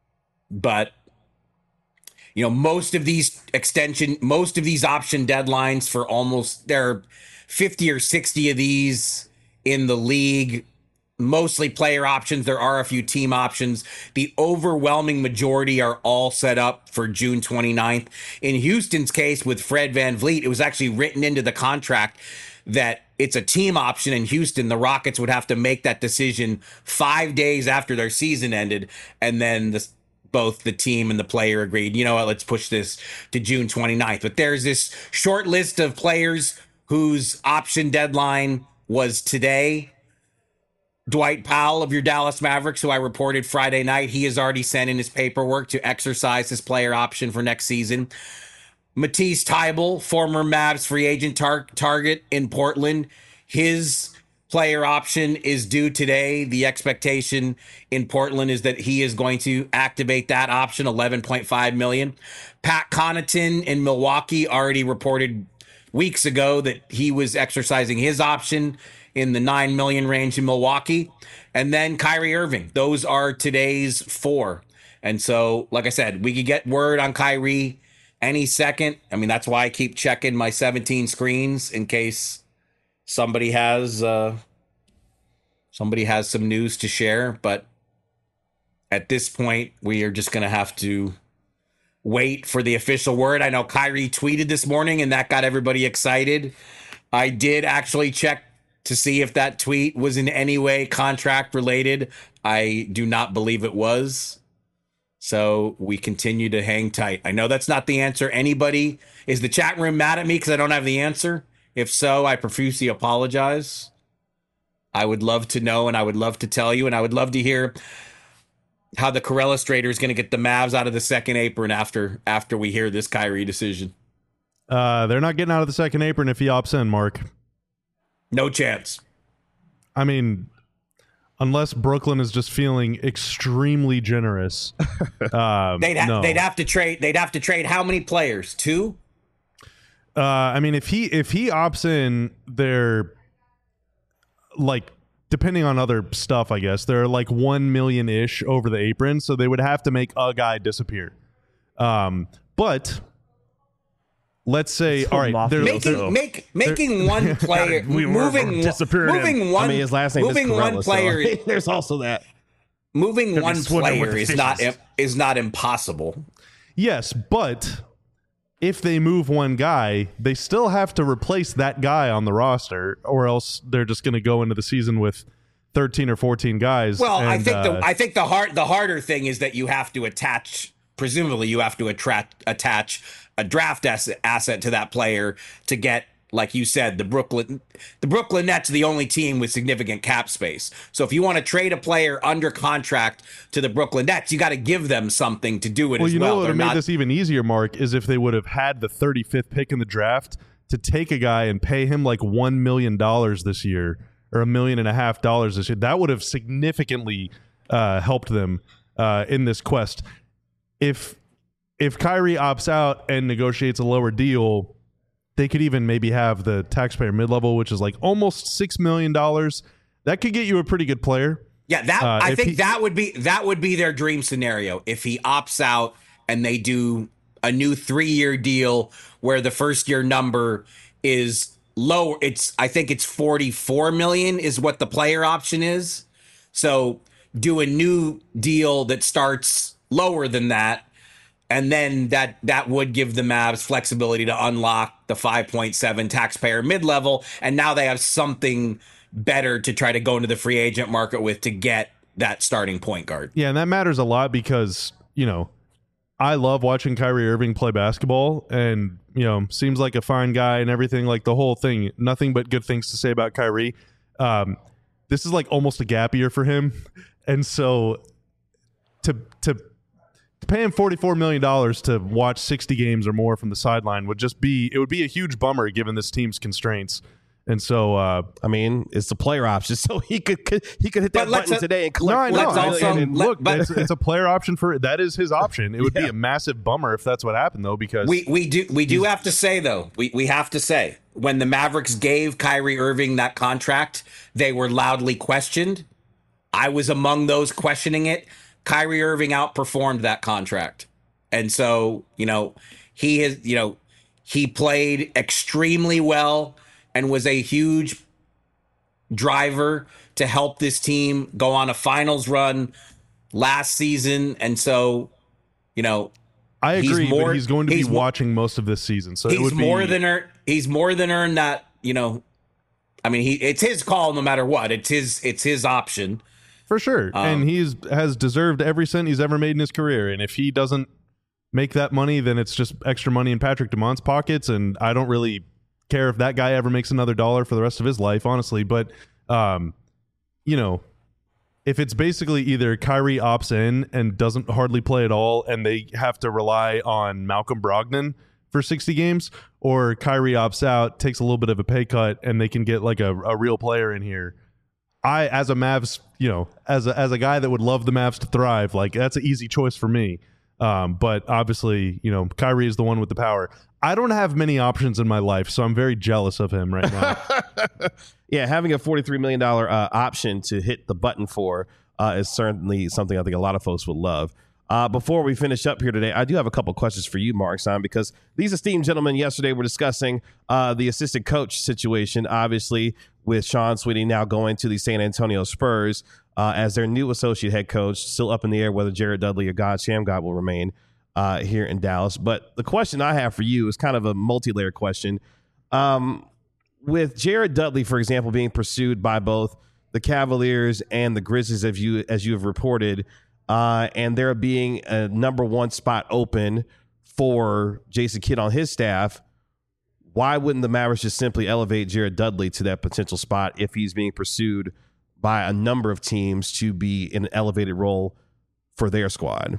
Speaker 5: most of these option deadlines for there are 50 or 60 of these in the league, mostly player options. There are a few team options. The overwhelming majority are all set up for June 29th. In Houston's case with Fred VanVleet, it was actually written into the contract that it's a team option in Houston. The Rockets would have to make that decision 5 days after their season ended. And then both the team and the player agreed, let's push this to June 29th. But there's this short list of players whose option deadline was today. Dwight Powell of your Dallas Mavericks, who I reported Friday night, he has already sent in his paperwork to exercise his player option for next season. Matisse Thybulle, former Mavs free agent target in Portland, his player option is due today. The expectation in Portland is that he is going to activate that option, $11.5 million. Pat Connaughton in Milwaukee already reported weeks ago that he was exercising his option in the $9 million range in Milwaukee. And then Kyrie Irving. Those are today's 4. And so, like I said, we could get word on Kyrie any second. I mean, that's why I keep checking my 17 screens in case somebody has some news to share. But at this point, we are just going to have to wait for the official word. I know Kyrie tweeted this morning, and that got everybody excited. I did actually check to see if that tweet was in any way contract related. I do not believe it was. So we continue to hang tight. I know that's not the answer. Anybody, is the chat room mad at me because I don't have the answer? If so, I profusely apologize. I would love to know, and I would love to tell you, and I would love to hear how the Corella Strader is going to get the Mavs out of the second apron after we hear this Kyrie decision.
Speaker 3: They're not getting out of the second apron if he opts in, Mark.
Speaker 5: No chance.
Speaker 3: I mean, unless Brooklyn is just feeling extremely generous,
Speaker 5: they'd have to trade. They'd have to trade how many players? 2.
Speaker 3: I mean, if he opts in, they're like, depending on other stuff, I guess they're like 1 million ish over the apron, so they would have to make a guy disappear. But let's say, all right,
Speaker 5: making one player moving one.
Speaker 1: I mean, his last name
Speaker 5: moving
Speaker 1: is Corella,
Speaker 5: one player.
Speaker 1: So there's also that.
Speaker 5: Moving one player is not impossible.
Speaker 3: Yes, but if they move one guy, they still have to replace that guy on the roster, or else they're just going to go into the season with 13 or 14 guys.
Speaker 5: Well, I think the harder thing is that you have to attach. Presumably, you have to attach a draft asset to that player to get, like you said, the Brooklyn Nets are the only team with significant cap space. So if you want to trade a player under contract to the Brooklyn Nets, you got to give them something to do it as well.
Speaker 3: Well, you know what would have made this even easier, Mark, is if they would have had the 35th pick in the draft to take a guy and pay him like $1 million this year or $1.5 million this year. That would have significantly helped them in this quest. If Kyrie opts out and negotiates a lower deal, they could even maybe have the taxpayer mid-level, which is like almost $6 million. That could get you a pretty good player.
Speaker 5: Yeah, I think that would be their dream scenario if he opts out and they do a new 3-year deal where the first year number is low. I think it's $44 million is what the player option is. So do a new deal that starts lower than that. And then that would give the Mavs flexibility to unlock the 5.7 taxpayer mid-level. And now they have something better to try to go into the free agent market with to get that starting point guard.
Speaker 3: Yeah, and that matters a lot because, I love watching Kyrie Irving play basketball and, seems like a fine guy and everything, like the whole thing. Nothing but good things to say about Kyrie. This is like almost a gap year for him. And so to pay him $44 million to watch 60 games or more from the sideline would be a huge bummer given this team's constraints. And so, I
Speaker 1: mean, it's the player option, so he could hit that button today and collect.
Speaker 3: It's a player option that is his option. It would be a massive bummer if that's what happened, though, because
Speaker 5: we do have to say though we have to say when the Mavericks gave Kyrie Irving that contract, they were loudly questioned. I was among those questioning it. Kyrie Irving outperformed that contract. And so, he played extremely well and was a huge driver to help this team go on a finals run last season. And so,
Speaker 3: I agree, but he's going to be watching most of this season. So
Speaker 5: he's more than earned that, I mean, it's his call no matter what. It's his option.
Speaker 3: For sure. And has deserved every cent he's ever made in his career. And if he doesn't make that money, then it's just extra money in Patrick Dumont's pockets. And I don't really care if that guy ever makes another dollar for the rest of his life, honestly. But, if it's basically either Kyrie opts in and doesn't hardly play at all and they have to rely on Malcolm Brogdon for 60 games, or Kyrie opts out, takes a little bit of a pay cut, and they can get like a real player in here, as a Mavs, as a guy that would love the Mavs to thrive, like that's an easy choice for me. But obviously, Kyrie is the one with the power. I don't have many options in my life, so I'm very jealous of him right now.
Speaker 1: Yeah, having a $43 million option to hit the button for is certainly something I think a lot of folks would love. Before we finish up here today, I do have a couple questions for you, Mark Stein, because these esteemed gentlemen yesterday were discussing the assistant coach situation, obviously, with Sean Sweeney now going to the San Antonio Spurs as their new associate head coach. Still up in the air whether Jared Dudley or God Shammgod will remain here in Dallas. But the question I have for you is kind of a multi-layered question. With Jared Dudley, for example, being pursued by both the Cavaliers and the Grizzlies, as you have reported, and there being a number one spot open for Jason Kidd on his staff, why wouldn't the Mavericks just simply elevate Jared Dudley to that potential spot if he's being pursued by a number of teams to be in an elevated role for their squad?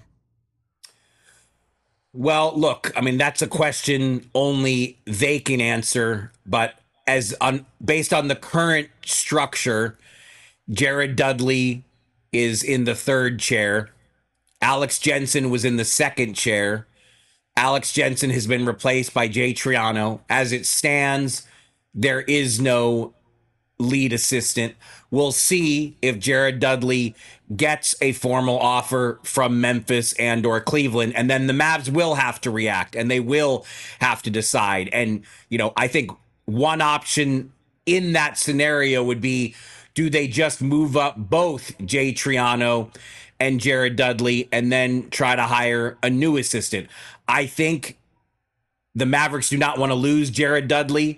Speaker 5: Well, look, I mean, that's a question only they can answer. But based on the current structure, Jared Dudley is in the third chair. Alex Jensen was in the second chair. Alex Jensen has been replaced by Jay Triano. As it stands, there is no lead assistant. We'll see if Jared Dudley gets a formal offer from Memphis and or Cleveland, and then the Mavs will have to react and they will have to decide. And, I think one option in that scenario would be, do they just move up both Jay Triano and Jared Dudley and then try to hire a new assistant? I think the Mavericks do not want to lose Jared Dudley.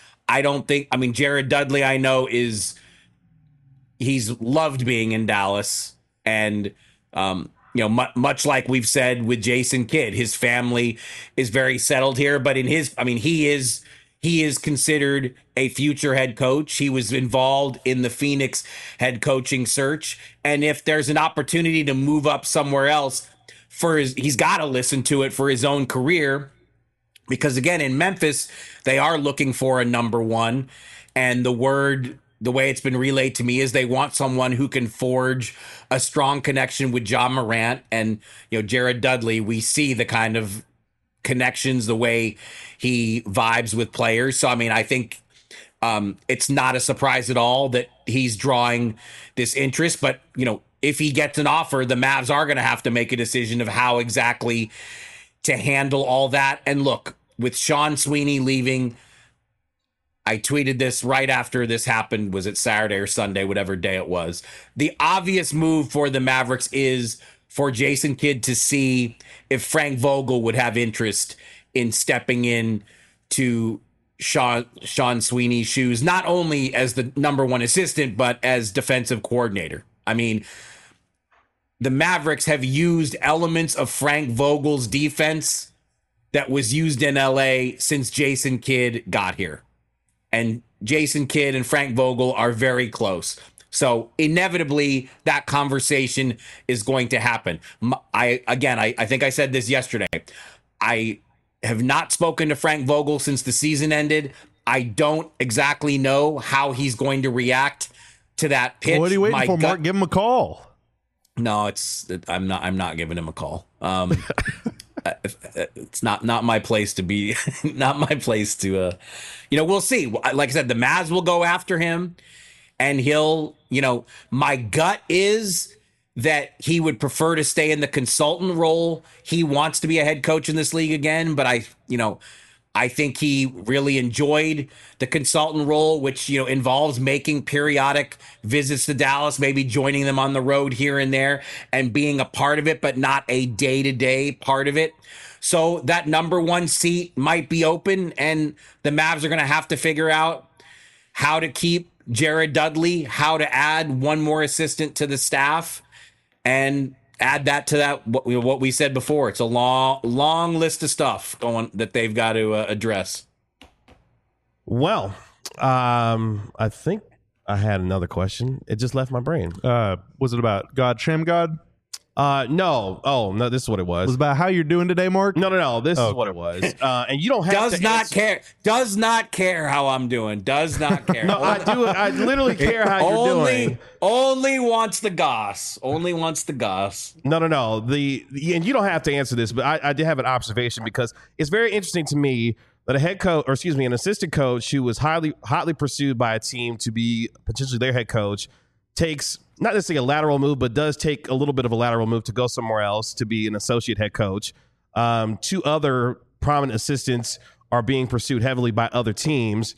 Speaker 5: Jared Dudley, I know, he's loved being in Dallas. And, much like we've said with Jason Kidd, his family is very settled here. But he is considered a future head coach. He was involved in the Phoenix head coaching search. And if there's an opportunity to move up somewhere else he's got to listen to it for his own career. Because again, in Memphis, they are looking for a number one. And the way it's been relayed to me is they want someone who can forge a strong connection with Ja Morant and, Jared Dudley. We see the kind of connections, the way he vibes with players. So, I think it's not a surprise at all that he's drawing this interest. But, if he gets an offer, the Mavs are going to have to make a decision of how exactly to handle all that. And look, with Sean Sweeney leaving, I tweeted this right after this happened. Was it Saturday or Sunday, whatever day it was? The obvious move for the Mavericks is for Jason Kidd to see if Frank Vogel would have interest in stepping in to Sean Sweeney's shoes, not only as the number one assistant, but as defensive coordinator. The Mavericks have used elements of Frank Vogel's defense that was used in LA since Jason Kidd got here. And Jason Kidd and Frank Vogel are very close. So inevitably that conversation is going to happen. I think I said this yesterday. I have not spoken to Frank Vogel since the season ended. I don't exactly know how he's going to react to that pitch.
Speaker 3: What are you waiting for, Mark? Give him a call.
Speaker 5: No, I'm not giving him a call. It's not my place to be, not my place to, we'll see. Like I said, the Mavs will go after him and he'll, my gut is that he would prefer to stay in the consultant role. He wants to be a head coach in this league again, but I think he really enjoyed the consultant role, which, involves making periodic visits to Dallas, maybe joining them on the road here and there and being a part of it, but not a day-to-day part of it. So that number one seat might be open, and the Mavs are going to have to figure out how to keep Jared Dudley, how to add one more assistant to the staff, and add that to that what we said before. It's a long list of stuff that they've got to address.
Speaker 1: Well, I think I had another question. It just left my brain.
Speaker 3: Was it about God, Sham God?
Speaker 1: No. Oh, no, this is what it was.
Speaker 3: Was it about how you're doing today, Mark?
Speaker 1: No. This is what it was. And you don't have
Speaker 5: Does not care how I'm doing. Does not care.
Speaker 1: No, I do. I literally care how you're doing.
Speaker 5: Only wants the goss. Only wants the goss.
Speaker 1: No. And you don't have to answer this, but I did have an observation because it's very interesting to me that an assistant coach who was hotly pursued by a team to be potentially their head coach takes not necessarily a lateral move, but does take a little bit of a lateral move to go somewhere else to be an associate head coach. Two other prominent assistants are being pursued heavily by other teams.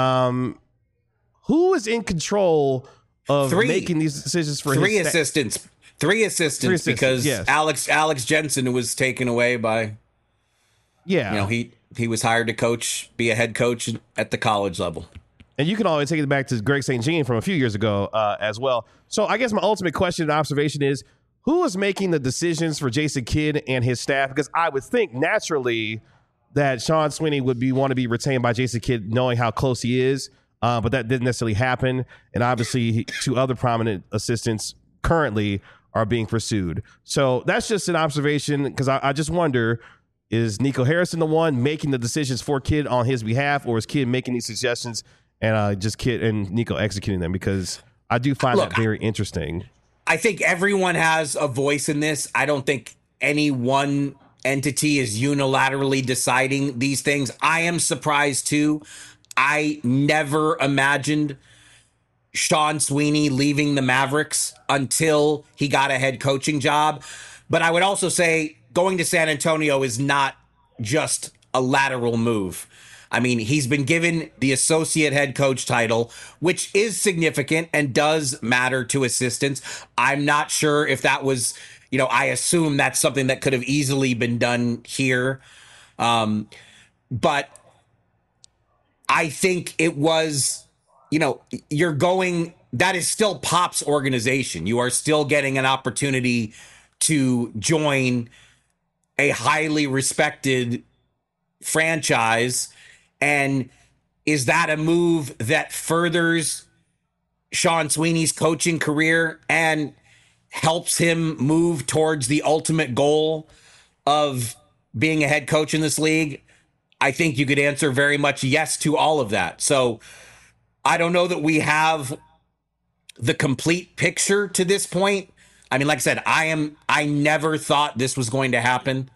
Speaker 1: Who is in control of making these decisions for
Speaker 5: three assistants? Three assistants because yes. Alex Jensen was taken away by. Yeah, he was hired to be a head coach at the college level.
Speaker 1: And you can always take it back to Greg St. Jean from a few years ago as well. So I guess my ultimate question and observation is, who is making the decisions for Jason Kidd and his staff? Because I would think naturally that Sean Sweeney would want to be retained by Jason Kidd, knowing how close he is. But that didn't necessarily happen. And obviously, two other prominent assistants currently are being pursued. So that's just an observation because I just wonder, is Nico Harrison the one making the decisions for Kidd on his behalf, or is Kidd making these suggestions and just Kidd and Nico executing them? Because I do find that very interesting.
Speaker 5: I think everyone has a voice in this. I don't think any one entity is unilaterally deciding these things. I am surprised too. I never imagined Sean Sweeney leaving the Mavericks until he got a head coaching job. But I would also say going to San Antonio is not just a lateral move. I mean, he's been given the associate head coach title, which is significant and does matter to assistants. I'm not sure if that was, I assume that's something that could have easily been done here. But I think it was, that is still Pop's organization. You are still getting an opportunity to join a highly respected franchise. And is that a move that furthers Sean Sweeney's coaching career and helps him move towards the ultimate goal of being a head coach in this league? I think you could answer very much yes to all of that. So I don't know that we have the complete picture to this point. I mean, like I said, I never thought this was going to happen,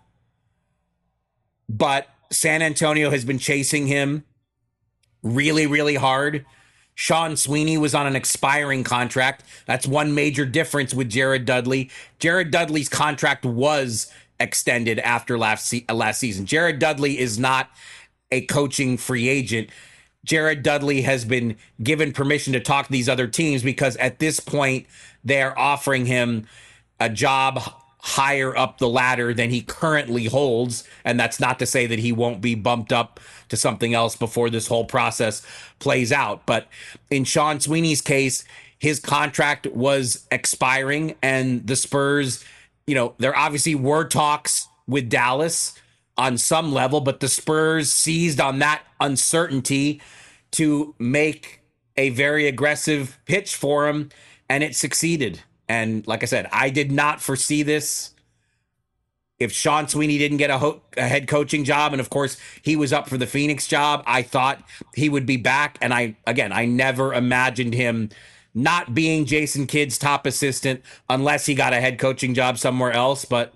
Speaker 5: but San Antonio has been chasing him really, really hard. Sean Sweeney was on an expiring contract. That's one major difference with Jared Dudley. Jared Dudley's contract was extended after last season. Jared Dudley is not a coaching free agent. Jared Dudley has been given permission to talk to these other teams because at this point, they're offering him a job higher up the ladder than he currently holds. And that's not to say that he won't be bumped up to something else before this whole process plays out. But in Sean Sweeney's case, his contract was expiring and the Spurs, there obviously were talks with Dallas on some level, but the Spurs seized on that uncertainty to make a very aggressive pitch for him, and it succeeded. And like I said, I did not foresee this. If Sean Sweeney didn't get a head coaching job, and of course he was up for the Phoenix job, I thought he would be back. And I never imagined him not being Jason Kidd's top assistant unless he got a head coaching job somewhere else. But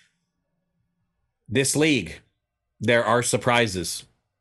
Speaker 5: this league, there are surprises.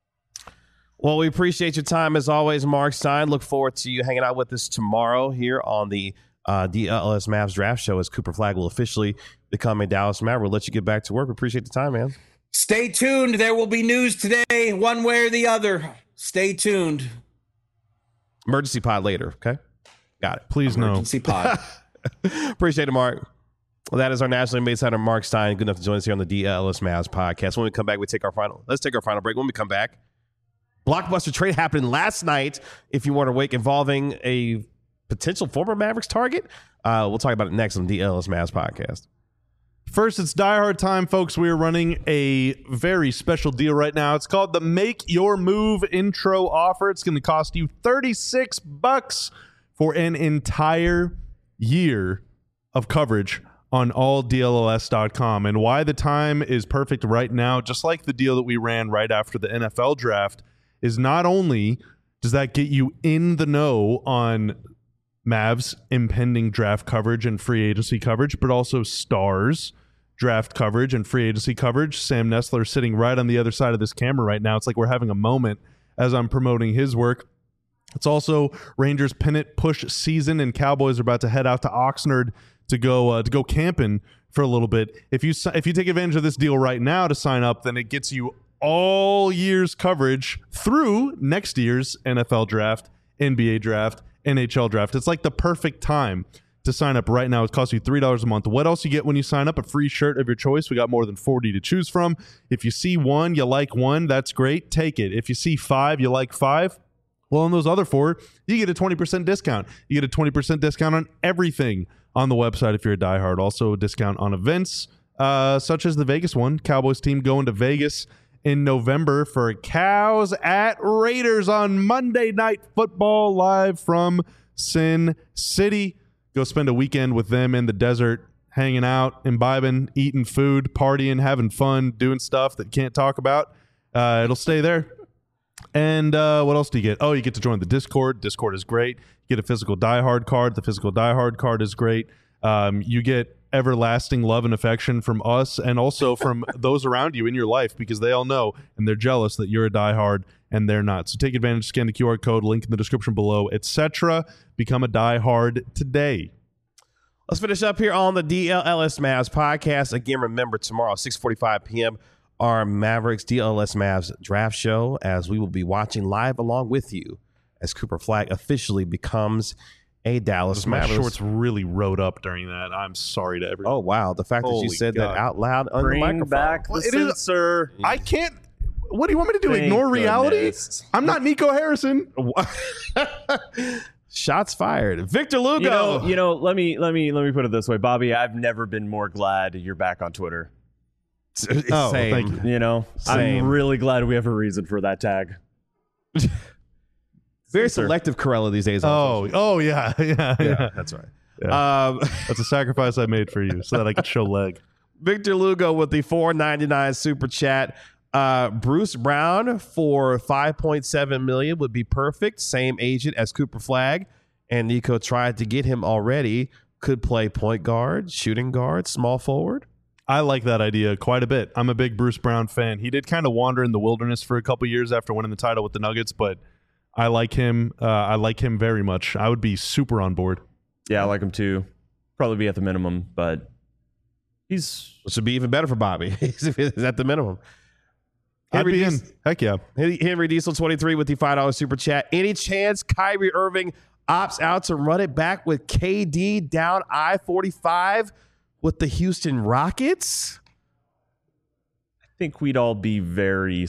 Speaker 1: Well, we appreciate your time as always, Mark Stein. Look forward to you hanging out with us tomorrow here on the DLS Mavs Draft Show as Cooper Flagg will officially become a Dallas Maverick. We'll let you get back to work. We appreciate the time, man.
Speaker 5: Stay tuned. There will be news today, one way or the other. Stay tuned.
Speaker 1: Emergency pod later, okay? Got it.
Speaker 3: Please no.
Speaker 5: Emergency pod.
Speaker 1: Appreciate it, Mark. Well, that is our nationally made center, Mark Stein. Good enough to join us here on the DLS Mavs podcast. When we come back, let's take our final break. When we come back, blockbuster trade happened last night, if you weren't awake, involving a potential former Mavericks target. We'll talk about it next on the DLS Mavs podcast.
Speaker 3: First, it's Die Hard time, folks. We are running a very special deal right now. It's called the Make Your Move intro offer. It's going to cost you $36 for an entire year of coverage on alldlos.com. And why the time is perfect right now, just like the deal that we ran right after the NFL draft, is not only does that get you in the know on Mavs impending draft coverage and free agency coverage, but also Stars draft coverage and free agency coverage. Sam Nestler sitting right on the other side of this camera right now. It's like we're having a moment as I'm promoting his work. It's also Rangers pennant push season, and Cowboys are about to head out to Oxnard to go camping for a little bit. If you take advantage of this deal right now to sign up, then it gets you all year's coverage through next year's NFL draft, NBA draft, NHL draft. It's like the perfect time to sign up right now. It costs you $3 a month. What else you get when you sign up? A free shirt of your choice. We got more than 40 to choose from. If you see one, you like one, that's great. Take it. If you see 5, you like 5. Well, on those other 4, you get a 20% discount. You get a 20% discount on everything on the website if you're a diehard. Also a discount on events such as the Vegas one. Cowboys team going to Vegas in November for Cows at Raiders on Monday Night Football live from Sin City. Go spend a weekend with them in the desert, hanging out, imbibing, eating food, partying, having fun, doing stuff that you can't talk about. It'll stay there. And what else do you get? Oh, you get to join the Discord. Discord is great. You get a physical Die Hard card. The physical Die Hard card is great. You get everlasting love and affection from us and also from those around you in your life, because they all know and they're jealous that you're a diehard and they're not. So take advantage, scan the QR code, link in the description below, etc. Become a diehard today.
Speaker 1: Let's finish up here on the DLS Mavs podcast. Again, remember, tomorrow, 6:45 p.m., our Mavericks DLS Mavs draft show, as we will be watching live along with you as Cooper Flagg officially becomes a Dallas
Speaker 3: My
Speaker 1: Mavericks.
Speaker 3: shorts really rode up during that. I'm sorry to everyone.
Speaker 1: Oh, wow. The fact that you
Speaker 3: Holy
Speaker 1: said
Speaker 3: God.
Speaker 1: that out loud on the
Speaker 2: Bring
Speaker 1: microphone.
Speaker 2: back the
Speaker 3: Well, it is-
Speaker 2: censor.
Speaker 3: I can't. What do you want me to do?
Speaker 2: Thank
Speaker 3: Ignore reality?
Speaker 2: goodness.
Speaker 3: I'm not Nico Harrison.
Speaker 1: Shots fired. Victor Lugo.
Speaker 2: You know. Let me put it this way, Bobby. I've never been more glad you're back on Twitter.
Speaker 3: Oh,
Speaker 1: Same.
Speaker 3: thank you.
Speaker 2: You know,
Speaker 1: Same.
Speaker 2: I'm really glad we have a reason for that tag.
Speaker 1: Very selective Corella these days.
Speaker 3: Oh, yeah.
Speaker 1: yeah, that's right.
Speaker 3: Yeah. That's a sacrifice I made for you so that I could show leg.
Speaker 1: Victor Lugo with the $4.99 super chat. Bruce Brown for $5.7 million would be perfect. Same agent as Cooper Flagg, and Nico tried to get him already. Could play point guard, shooting guard, small forward.
Speaker 3: I like that idea quite a bit. I'm a big Bruce Brown fan. He did kind of wander in the wilderness for a couple years after winning the title with the Nuggets, but I like him. I like him very much. I would be super on board.
Speaker 2: Yeah, I like him too. Probably be at the minimum, but he's
Speaker 1: Which would be even better for Bobby. He's at the minimum.
Speaker 3: I'd be in.
Speaker 1: Diesel-
Speaker 3: Heck yeah.
Speaker 1: Henry Diesel 23 with the $5 super chat. Any chance Kyrie Irving opts out to run it back with KD down I-45 with the Houston Rockets?
Speaker 2: I think we'd all be very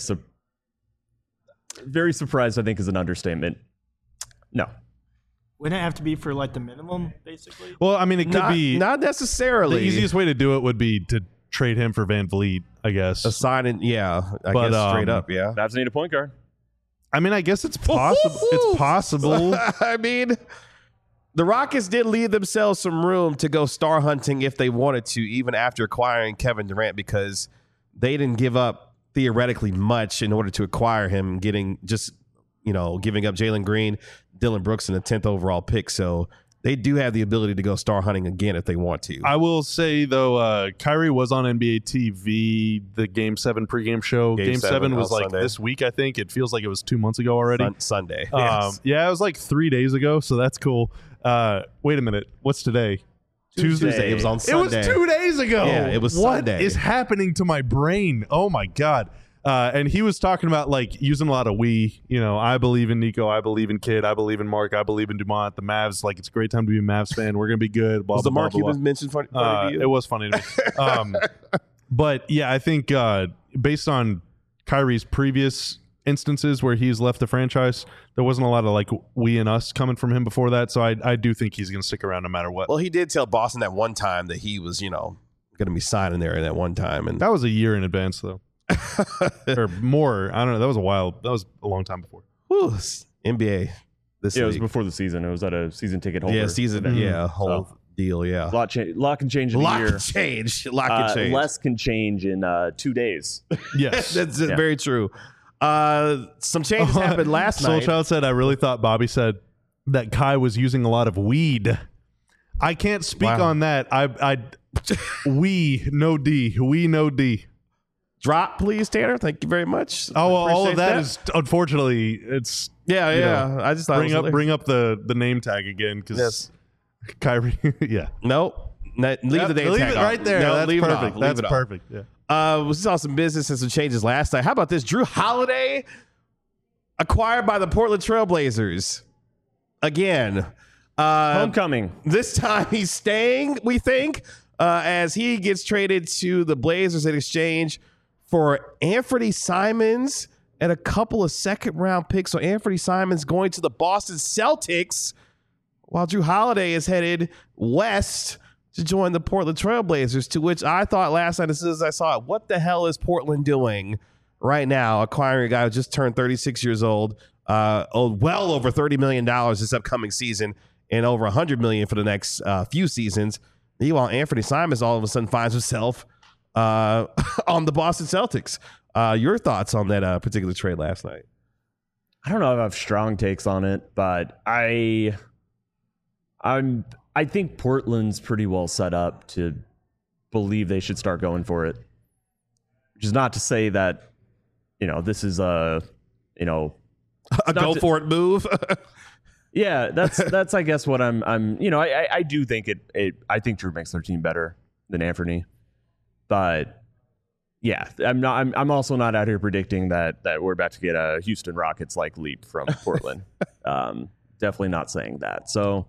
Speaker 2: surprised, I think is an understatement. No.
Speaker 4: Wouldn't it have to be for like the minimum, basically?
Speaker 3: Well, I mean, it could be.
Speaker 1: Not necessarily.
Speaker 3: The easiest way to do it would be to trade him for Van Vliet, I guess.
Speaker 1: Assigning, yeah, I
Speaker 3: But,
Speaker 1: guess straight up, yeah.
Speaker 2: Mavs need a point guard.
Speaker 3: I mean, I guess it's possible. It's possible.
Speaker 1: I mean, the Rockets did leave themselves some room to go star hunting if they wanted to, even after acquiring Kevin Durant, because they didn't give up theoretically much in order to acquire him, giving up Jalen Green, Dylan Brooks, and the 10th overall pick. So they do have the ability to go star hunting again if they want to.
Speaker 3: I will say, though, Kyrie was on NBA TV, the Game 7 pregame show. Game 7 was
Speaker 1: on
Speaker 3: like
Speaker 1: Sunday.
Speaker 3: this week, I think. It feels like it was 2 months ago already.
Speaker 1: Sunday. Yes.
Speaker 3: Yeah, it was like 3 days ago, so that's cool. Wait a minute. What's today?
Speaker 1: Tuesday. It was on Sunday.
Speaker 3: It was 2 days ago.
Speaker 1: Yeah, it was Sunday.
Speaker 3: What is happening to my brain? Oh, my God. And he was talking about like using a lot of we. You know, I believe in Nico. I believe in Kid. I believe in Mark. I believe in Dumont. The Mavs. Like, it's a great time to be a Mavs fan. We're gonna be good. Blah,
Speaker 1: Was the
Speaker 3: blah,
Speaker 1: Mark
Speaker 3: blah, blah,
Speaker 1: Cuban mention funny to you?
Speaker 3: It was funny to me. But yeah, I think based on Kyrie's previous instances where he's left the franchise, there wasn't a lot of like we and us coming from him before that. So I do think he's going to stick around no matter what.
Speaker 1: Well, he did tell Boston that one time that he was, going to be signing there at one time. And
Speaker 3: That was a year in advance, though. Or more. I don't know. That was a while. That was a long time before.
Speaker 1: whew, NBA this
Speaker 2: Yeah, it was
Speaker 1: week.
Speaker 2: before the season. It was at a season ticket holder.
Speaker 1: Yeah, season.
Speaker 2: event.
Speaker 1: Yeah, whole
Speaker 2: So,
Speaker 1: deal. Yeah.
Speaker 2: lot can change in a
Speaker 1: Lock
Speaker 2: year.
Speaker 1: can change. Lock can change.
Speaker 2: Less can change in 2 days.
Speaker 3: Yes.
Speaker 1: That's
Speaker 2: Yeah.
Speaker 1: very true. Some changes happened last
Speaker 3: Soul
Speaker 1: night.
Speaker 3: Child said, I really thought Bobby said that Kai was using a lot of weed. I can't speak
Speaker 1: Wow.
Speaker 3: on that. We no D.
Speaker 1: Drop, please, Tanner. Thank you very much.
Speaker 3: Oh, well, all of
Speaker 1: Appreciate
Speaker 3: that is unfortunately it's
Speaker 1: Yeah,
Speaker 3: you
Speaker 1: yeah.
Speaker 3: know,
Speaker 1: I just thought it was
Speaker 3: bring up the name tag again because
Speaker 1: Yes.
Speaker 3: Kyrie. Yeah,
Speaker 1: Nope. Leave
Speaker 3: Yep,
Speaker 1: the name
Speaker 3: leave
Speaker 1: tag
Speaker 3: it
Speaker 1: off.
Speaker 3: right there.
Speaker 1: No,
Speaker 3: That's
Speaker 1: leave it off.
Speaker 3: perfect.
Speaker 1: Leave
Speaker 3: That's
Speaker 1: it off.
Speaker 3: perfect. Yeah.
Speaker 1: We saw some business and some changes last night. How about this? Drew Holiday acquired by the Portland Trailblazers again.
Speaker 2: Homecoming.
Speaker 1: This time he's staying, we think, as he gets traded to the Blazers in exchange for Anthony Simons and a couple of second-round picks. So Anthony Simons going to the Boston Celtics, while Drew Holiday is headed west to join the Portland Trailblazers, to which I thought last night, as soon as I saw it, what the hell is Portland doing right now, acquiring a guy who just turned 36 years old, owed well over $30 million this upcoming season, and over $100 million for the next few seasons. Meanwhile, Anthony Simons all of a sudden finds himself on the Boston Celtics. Your thoughts on that particular trade last night?
Speaker 2: I don't know if I have strong takes on it, but I think Portland's pretty well set up to believe they should start going for it. Which is not to say that, this is a
Speaker 1: go for it move.
Speaker 2: Yeah, that's I guess what I'm I do think I think Drew makes their team better than Anthony. But yeah, I'm also not out here predicting that we're about to get a Houston Rockets like leap from Portland. Definitely not saying that. So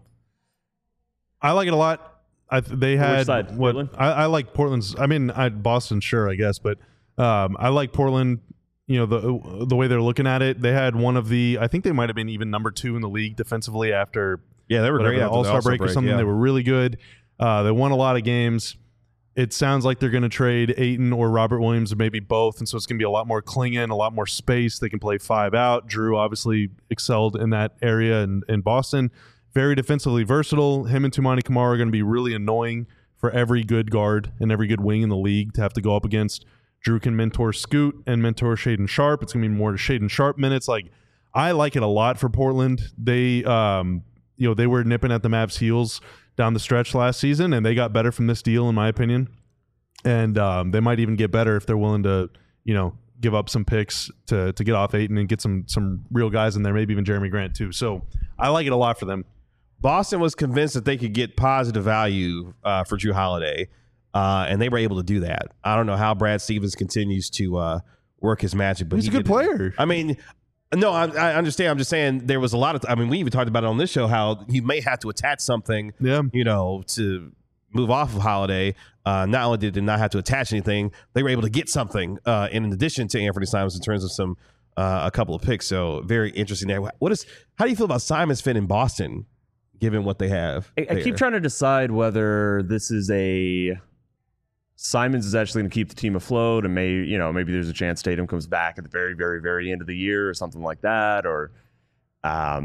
Speaker 3: I like it a lot. They had
Speaker 2: which side? Portland?
Speaker 3: I like Portland's. I mean, Boston, sure, I guess, but I like Portland. The way they're looking at it, they had one of the. I think they might have been even number 2 in the league defensively after.
Speaker 1: Yeah, they were great after
Speaker 3: All-Star break or something.
Speaker 1: Yeah.
Speaker 3: They were really good. They won a lot of games. It sounds like they're going to trade Ayton or Robert Williams, or maybe both, and so it's going to be a lot more clinging, a lot more space. They can play 5 out. Drew obviously excelled in that area in Boston. Very defensively versatile. Him and Toumani Camara are going to be really annoying for every good guard and every good wing in the league to have to go up against. Drew can mentor Scoot and mentor Shaedon Sharpe. It's going to be more Shaedon Sharpe minutes. Like, I like it a lot for Portland. They, they were nipping at the Mavs' heels down the stretch last season, and they got better from this deal, in my opinion. And they might even get better if they're willing to, give up some picks to get off Ayton and get some real guys in there, maybe even Jeremy Grant too. So I like it a lot for them.
Speaker 1: Boston was convinced that they could get positive value for Drew Holiday, and they were able to do that. I don't know how Brad Stevens continues to work his magic, but
Speaker 3: He's a good player.
Speaker 1: I mean, no, I understand. I'm just saying there was a lot of. We even talked about it on this show how he may have to attach something, to move off of Holiday. Not only did they not have to attach anything, they were able to get something in addition to Anthony Simons in terms of a couple of picks. So very interesting there. How do you feel about Simons fit in Boston, given what they have?
Speaker 2: I keep trying to decide whether this is Simons is actually going to keep the team afloat, and maybe there's a chance Tatum comes back at the very, very, very end of the year or something like that, or I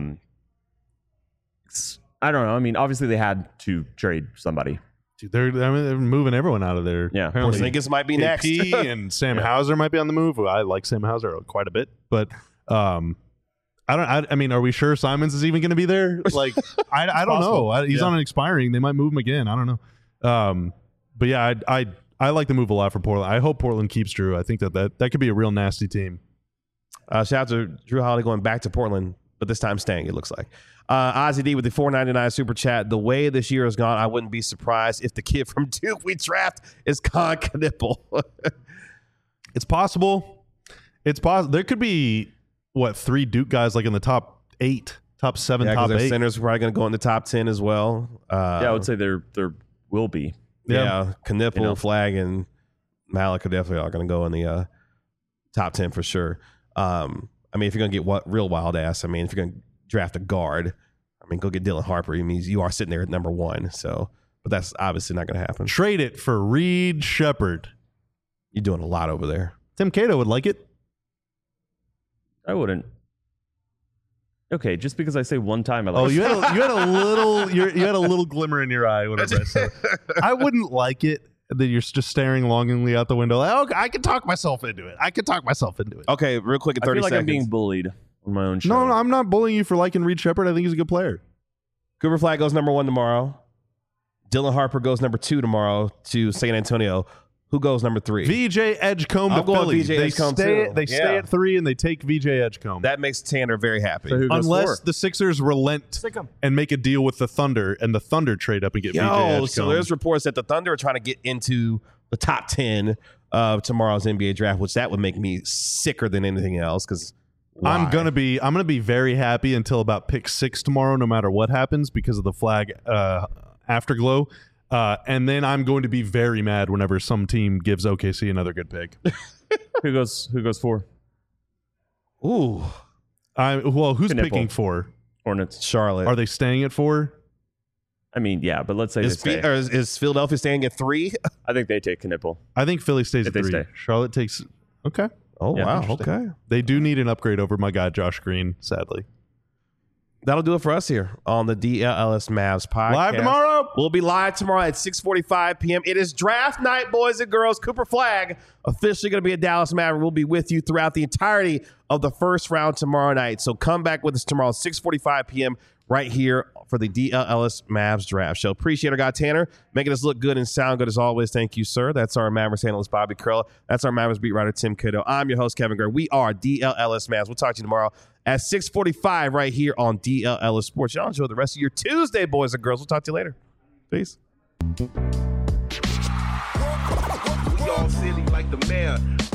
Speaker 2: don't know. I mean, obviously they had to trade somebody.
Speaker 3: Dude, they're moving everyone out of there.
Speaker 2: Yeah,
Speaker 1: Porzingis might be next,
Speaker 3: and Sam Hauser might be on the move. I like Sam Hauser quite a bit, but I mean, are we sure Simons is even going to be there? Like, I don't know. He's on an expiring. They might move him again. I don't know. But yeah, I like the move a lot for Portland. I hope Portland keeps Drew. I think that could be a real nasty team.
Speaker 1: Shout out to Drew Holiday going back to Portland, but this time staying, it looks like. Ozzy D with the $4.99 super chat. The way this year has gone, I wouldn't be surprised if the kid from Duke we draft is Con Knipple.
Speaker 3: It's possible. It's possible. There could be 3 Duke guys like in the top 8, top 7, top 8.
Speaker 1: Centers probably going to go in the top 10 as well.
Speaker 2: I would say there will be.
Speaker 1: Yeah, Knipple, Flag, and Malik are definitely all going to go in the top 10 for sure. I mean, if you're going to get real wild ass, if you're going to draft a guard, go get Dylan Harper. It means you are sitting there at number 1. So, but that's obviously not going to happen.
Speaker 3: Trade it for Reed Shepherd.
Speaker 1: You're doing a lot over there.
Speaker 3: Tim Cato would like it.
Speaker 2: I wouldn't. Okay, just because I say one time, I like.
Speaker 3: Oh, you had a little, you had a little glimmer in your eye. Whatever I said, I wouldn't like it that you're just staring longingly out the window. Like, oh, I can talk myself into it.
Speaker 1: Okay, real quick in 30
Speaker 2: I feel like
Speaker 1: seconds.
Speaker 2: I'm being bullied on my own show.
Speaker 3: No, I'm not bullying you for liking Reed Shepherd. I think he's a good player.
Speaker 1: Cooper Flag goes number 1 tomorrow. Dylan Harper goes number 2 tomorrow to San Antonio. Who goes number 3?
Speaker 3: VJ Edgecombe to
Speaker 1: I'm going
Speaker 3: Philly.
Speaker 1: VJ
Speaker 3: They
Speaker 1: Edgecombe
Speaker 3: stay,
Speaker 1: too.
Speaker 3: they stay at 3 and they take VJ Edgecombe.
Speaker 1: That makes Tanner very happy.
Speaker 2: So who goes
Speaker 3: Unless
Speaker 2: 4?
Speaker 3: the Sixers relent
Speaker 4: Stick 'em.
Speaker 3: and make a deal with the Thunder, and the Thunder trade up and get VJ Edgecombe.
Speaker 1: So there's reports that the Thunder are trying to get into the top 10 of tomorrow's NBA draft, which that would make me sicker than anything else. Because
Speaker 3: I'm gonna be very happy until about pick 6 tomorrow, no matter what happens, because of the Flag afterglow. And then I'm going to be very mad whenever some team gives OKC another good pick.
Speaker 2: Who goes 4?
Speaker 1: Ooh,
Speaker 3: Who's
Speaker 2: Knipple.
Speaker 3: picking 4?
Speaker 2: Hornets.
Speaker 1: Charlotte.
Speaker 3: Are they staying at 4?
Speaker 2: I mean, yeah, but let's say
Speaker 1: Is,
Speaker 2: they stay.
Speaker 1: is Philadelphia staying at 3?
Speaker 2: I think they take Knipple.
Speaker 3: I think Philly stays
Speaker 2: If
Speaker 3: at
Speaker 2: they
Speaker 3: 3.
Speaker 2: stay.
Speaker 3: Charlotte takes. Okay.
Speaker 1: Oh,
Speaker 2: Yeah,
Speaker 1: wow.
Speaker 3: interesting.
Speaker 1: Okay.
Speaker 3: They do need an upgrade over my guy Josh Green, sadly.
Speaker 1: That'll do it for us here on the DLS Mavs podcast.
Speaker 3: Live tomorrow.
Speaker 1: We'll be live tomorrow at 6:45 p.m. It is draft night, boys and girls. Cooper Flag officially going to be a Dallas Maverick. We'll be with you throughout the entirety of the first round tomorrow night. So come back with us tomorrow at 6:45 p.m. right here for the DLLS Mavs Draft Show. Appreciate our guy Tanner making us look good and sound good as always. Thank you, sir. That's our Mavericks analyst Bobby Curl. That's our Mavericks beat writer Tim Kiddo. I'm your host Kevin Gray. We are DLLS Mavs. We'll talk to you tomorrow at 6:45 right here on DLLS Sports. Y'all enjoy the rest of your Tuesday, boys and girls. We'll talk to you later. Peace.
Speaker 6: We all silly like the mayor.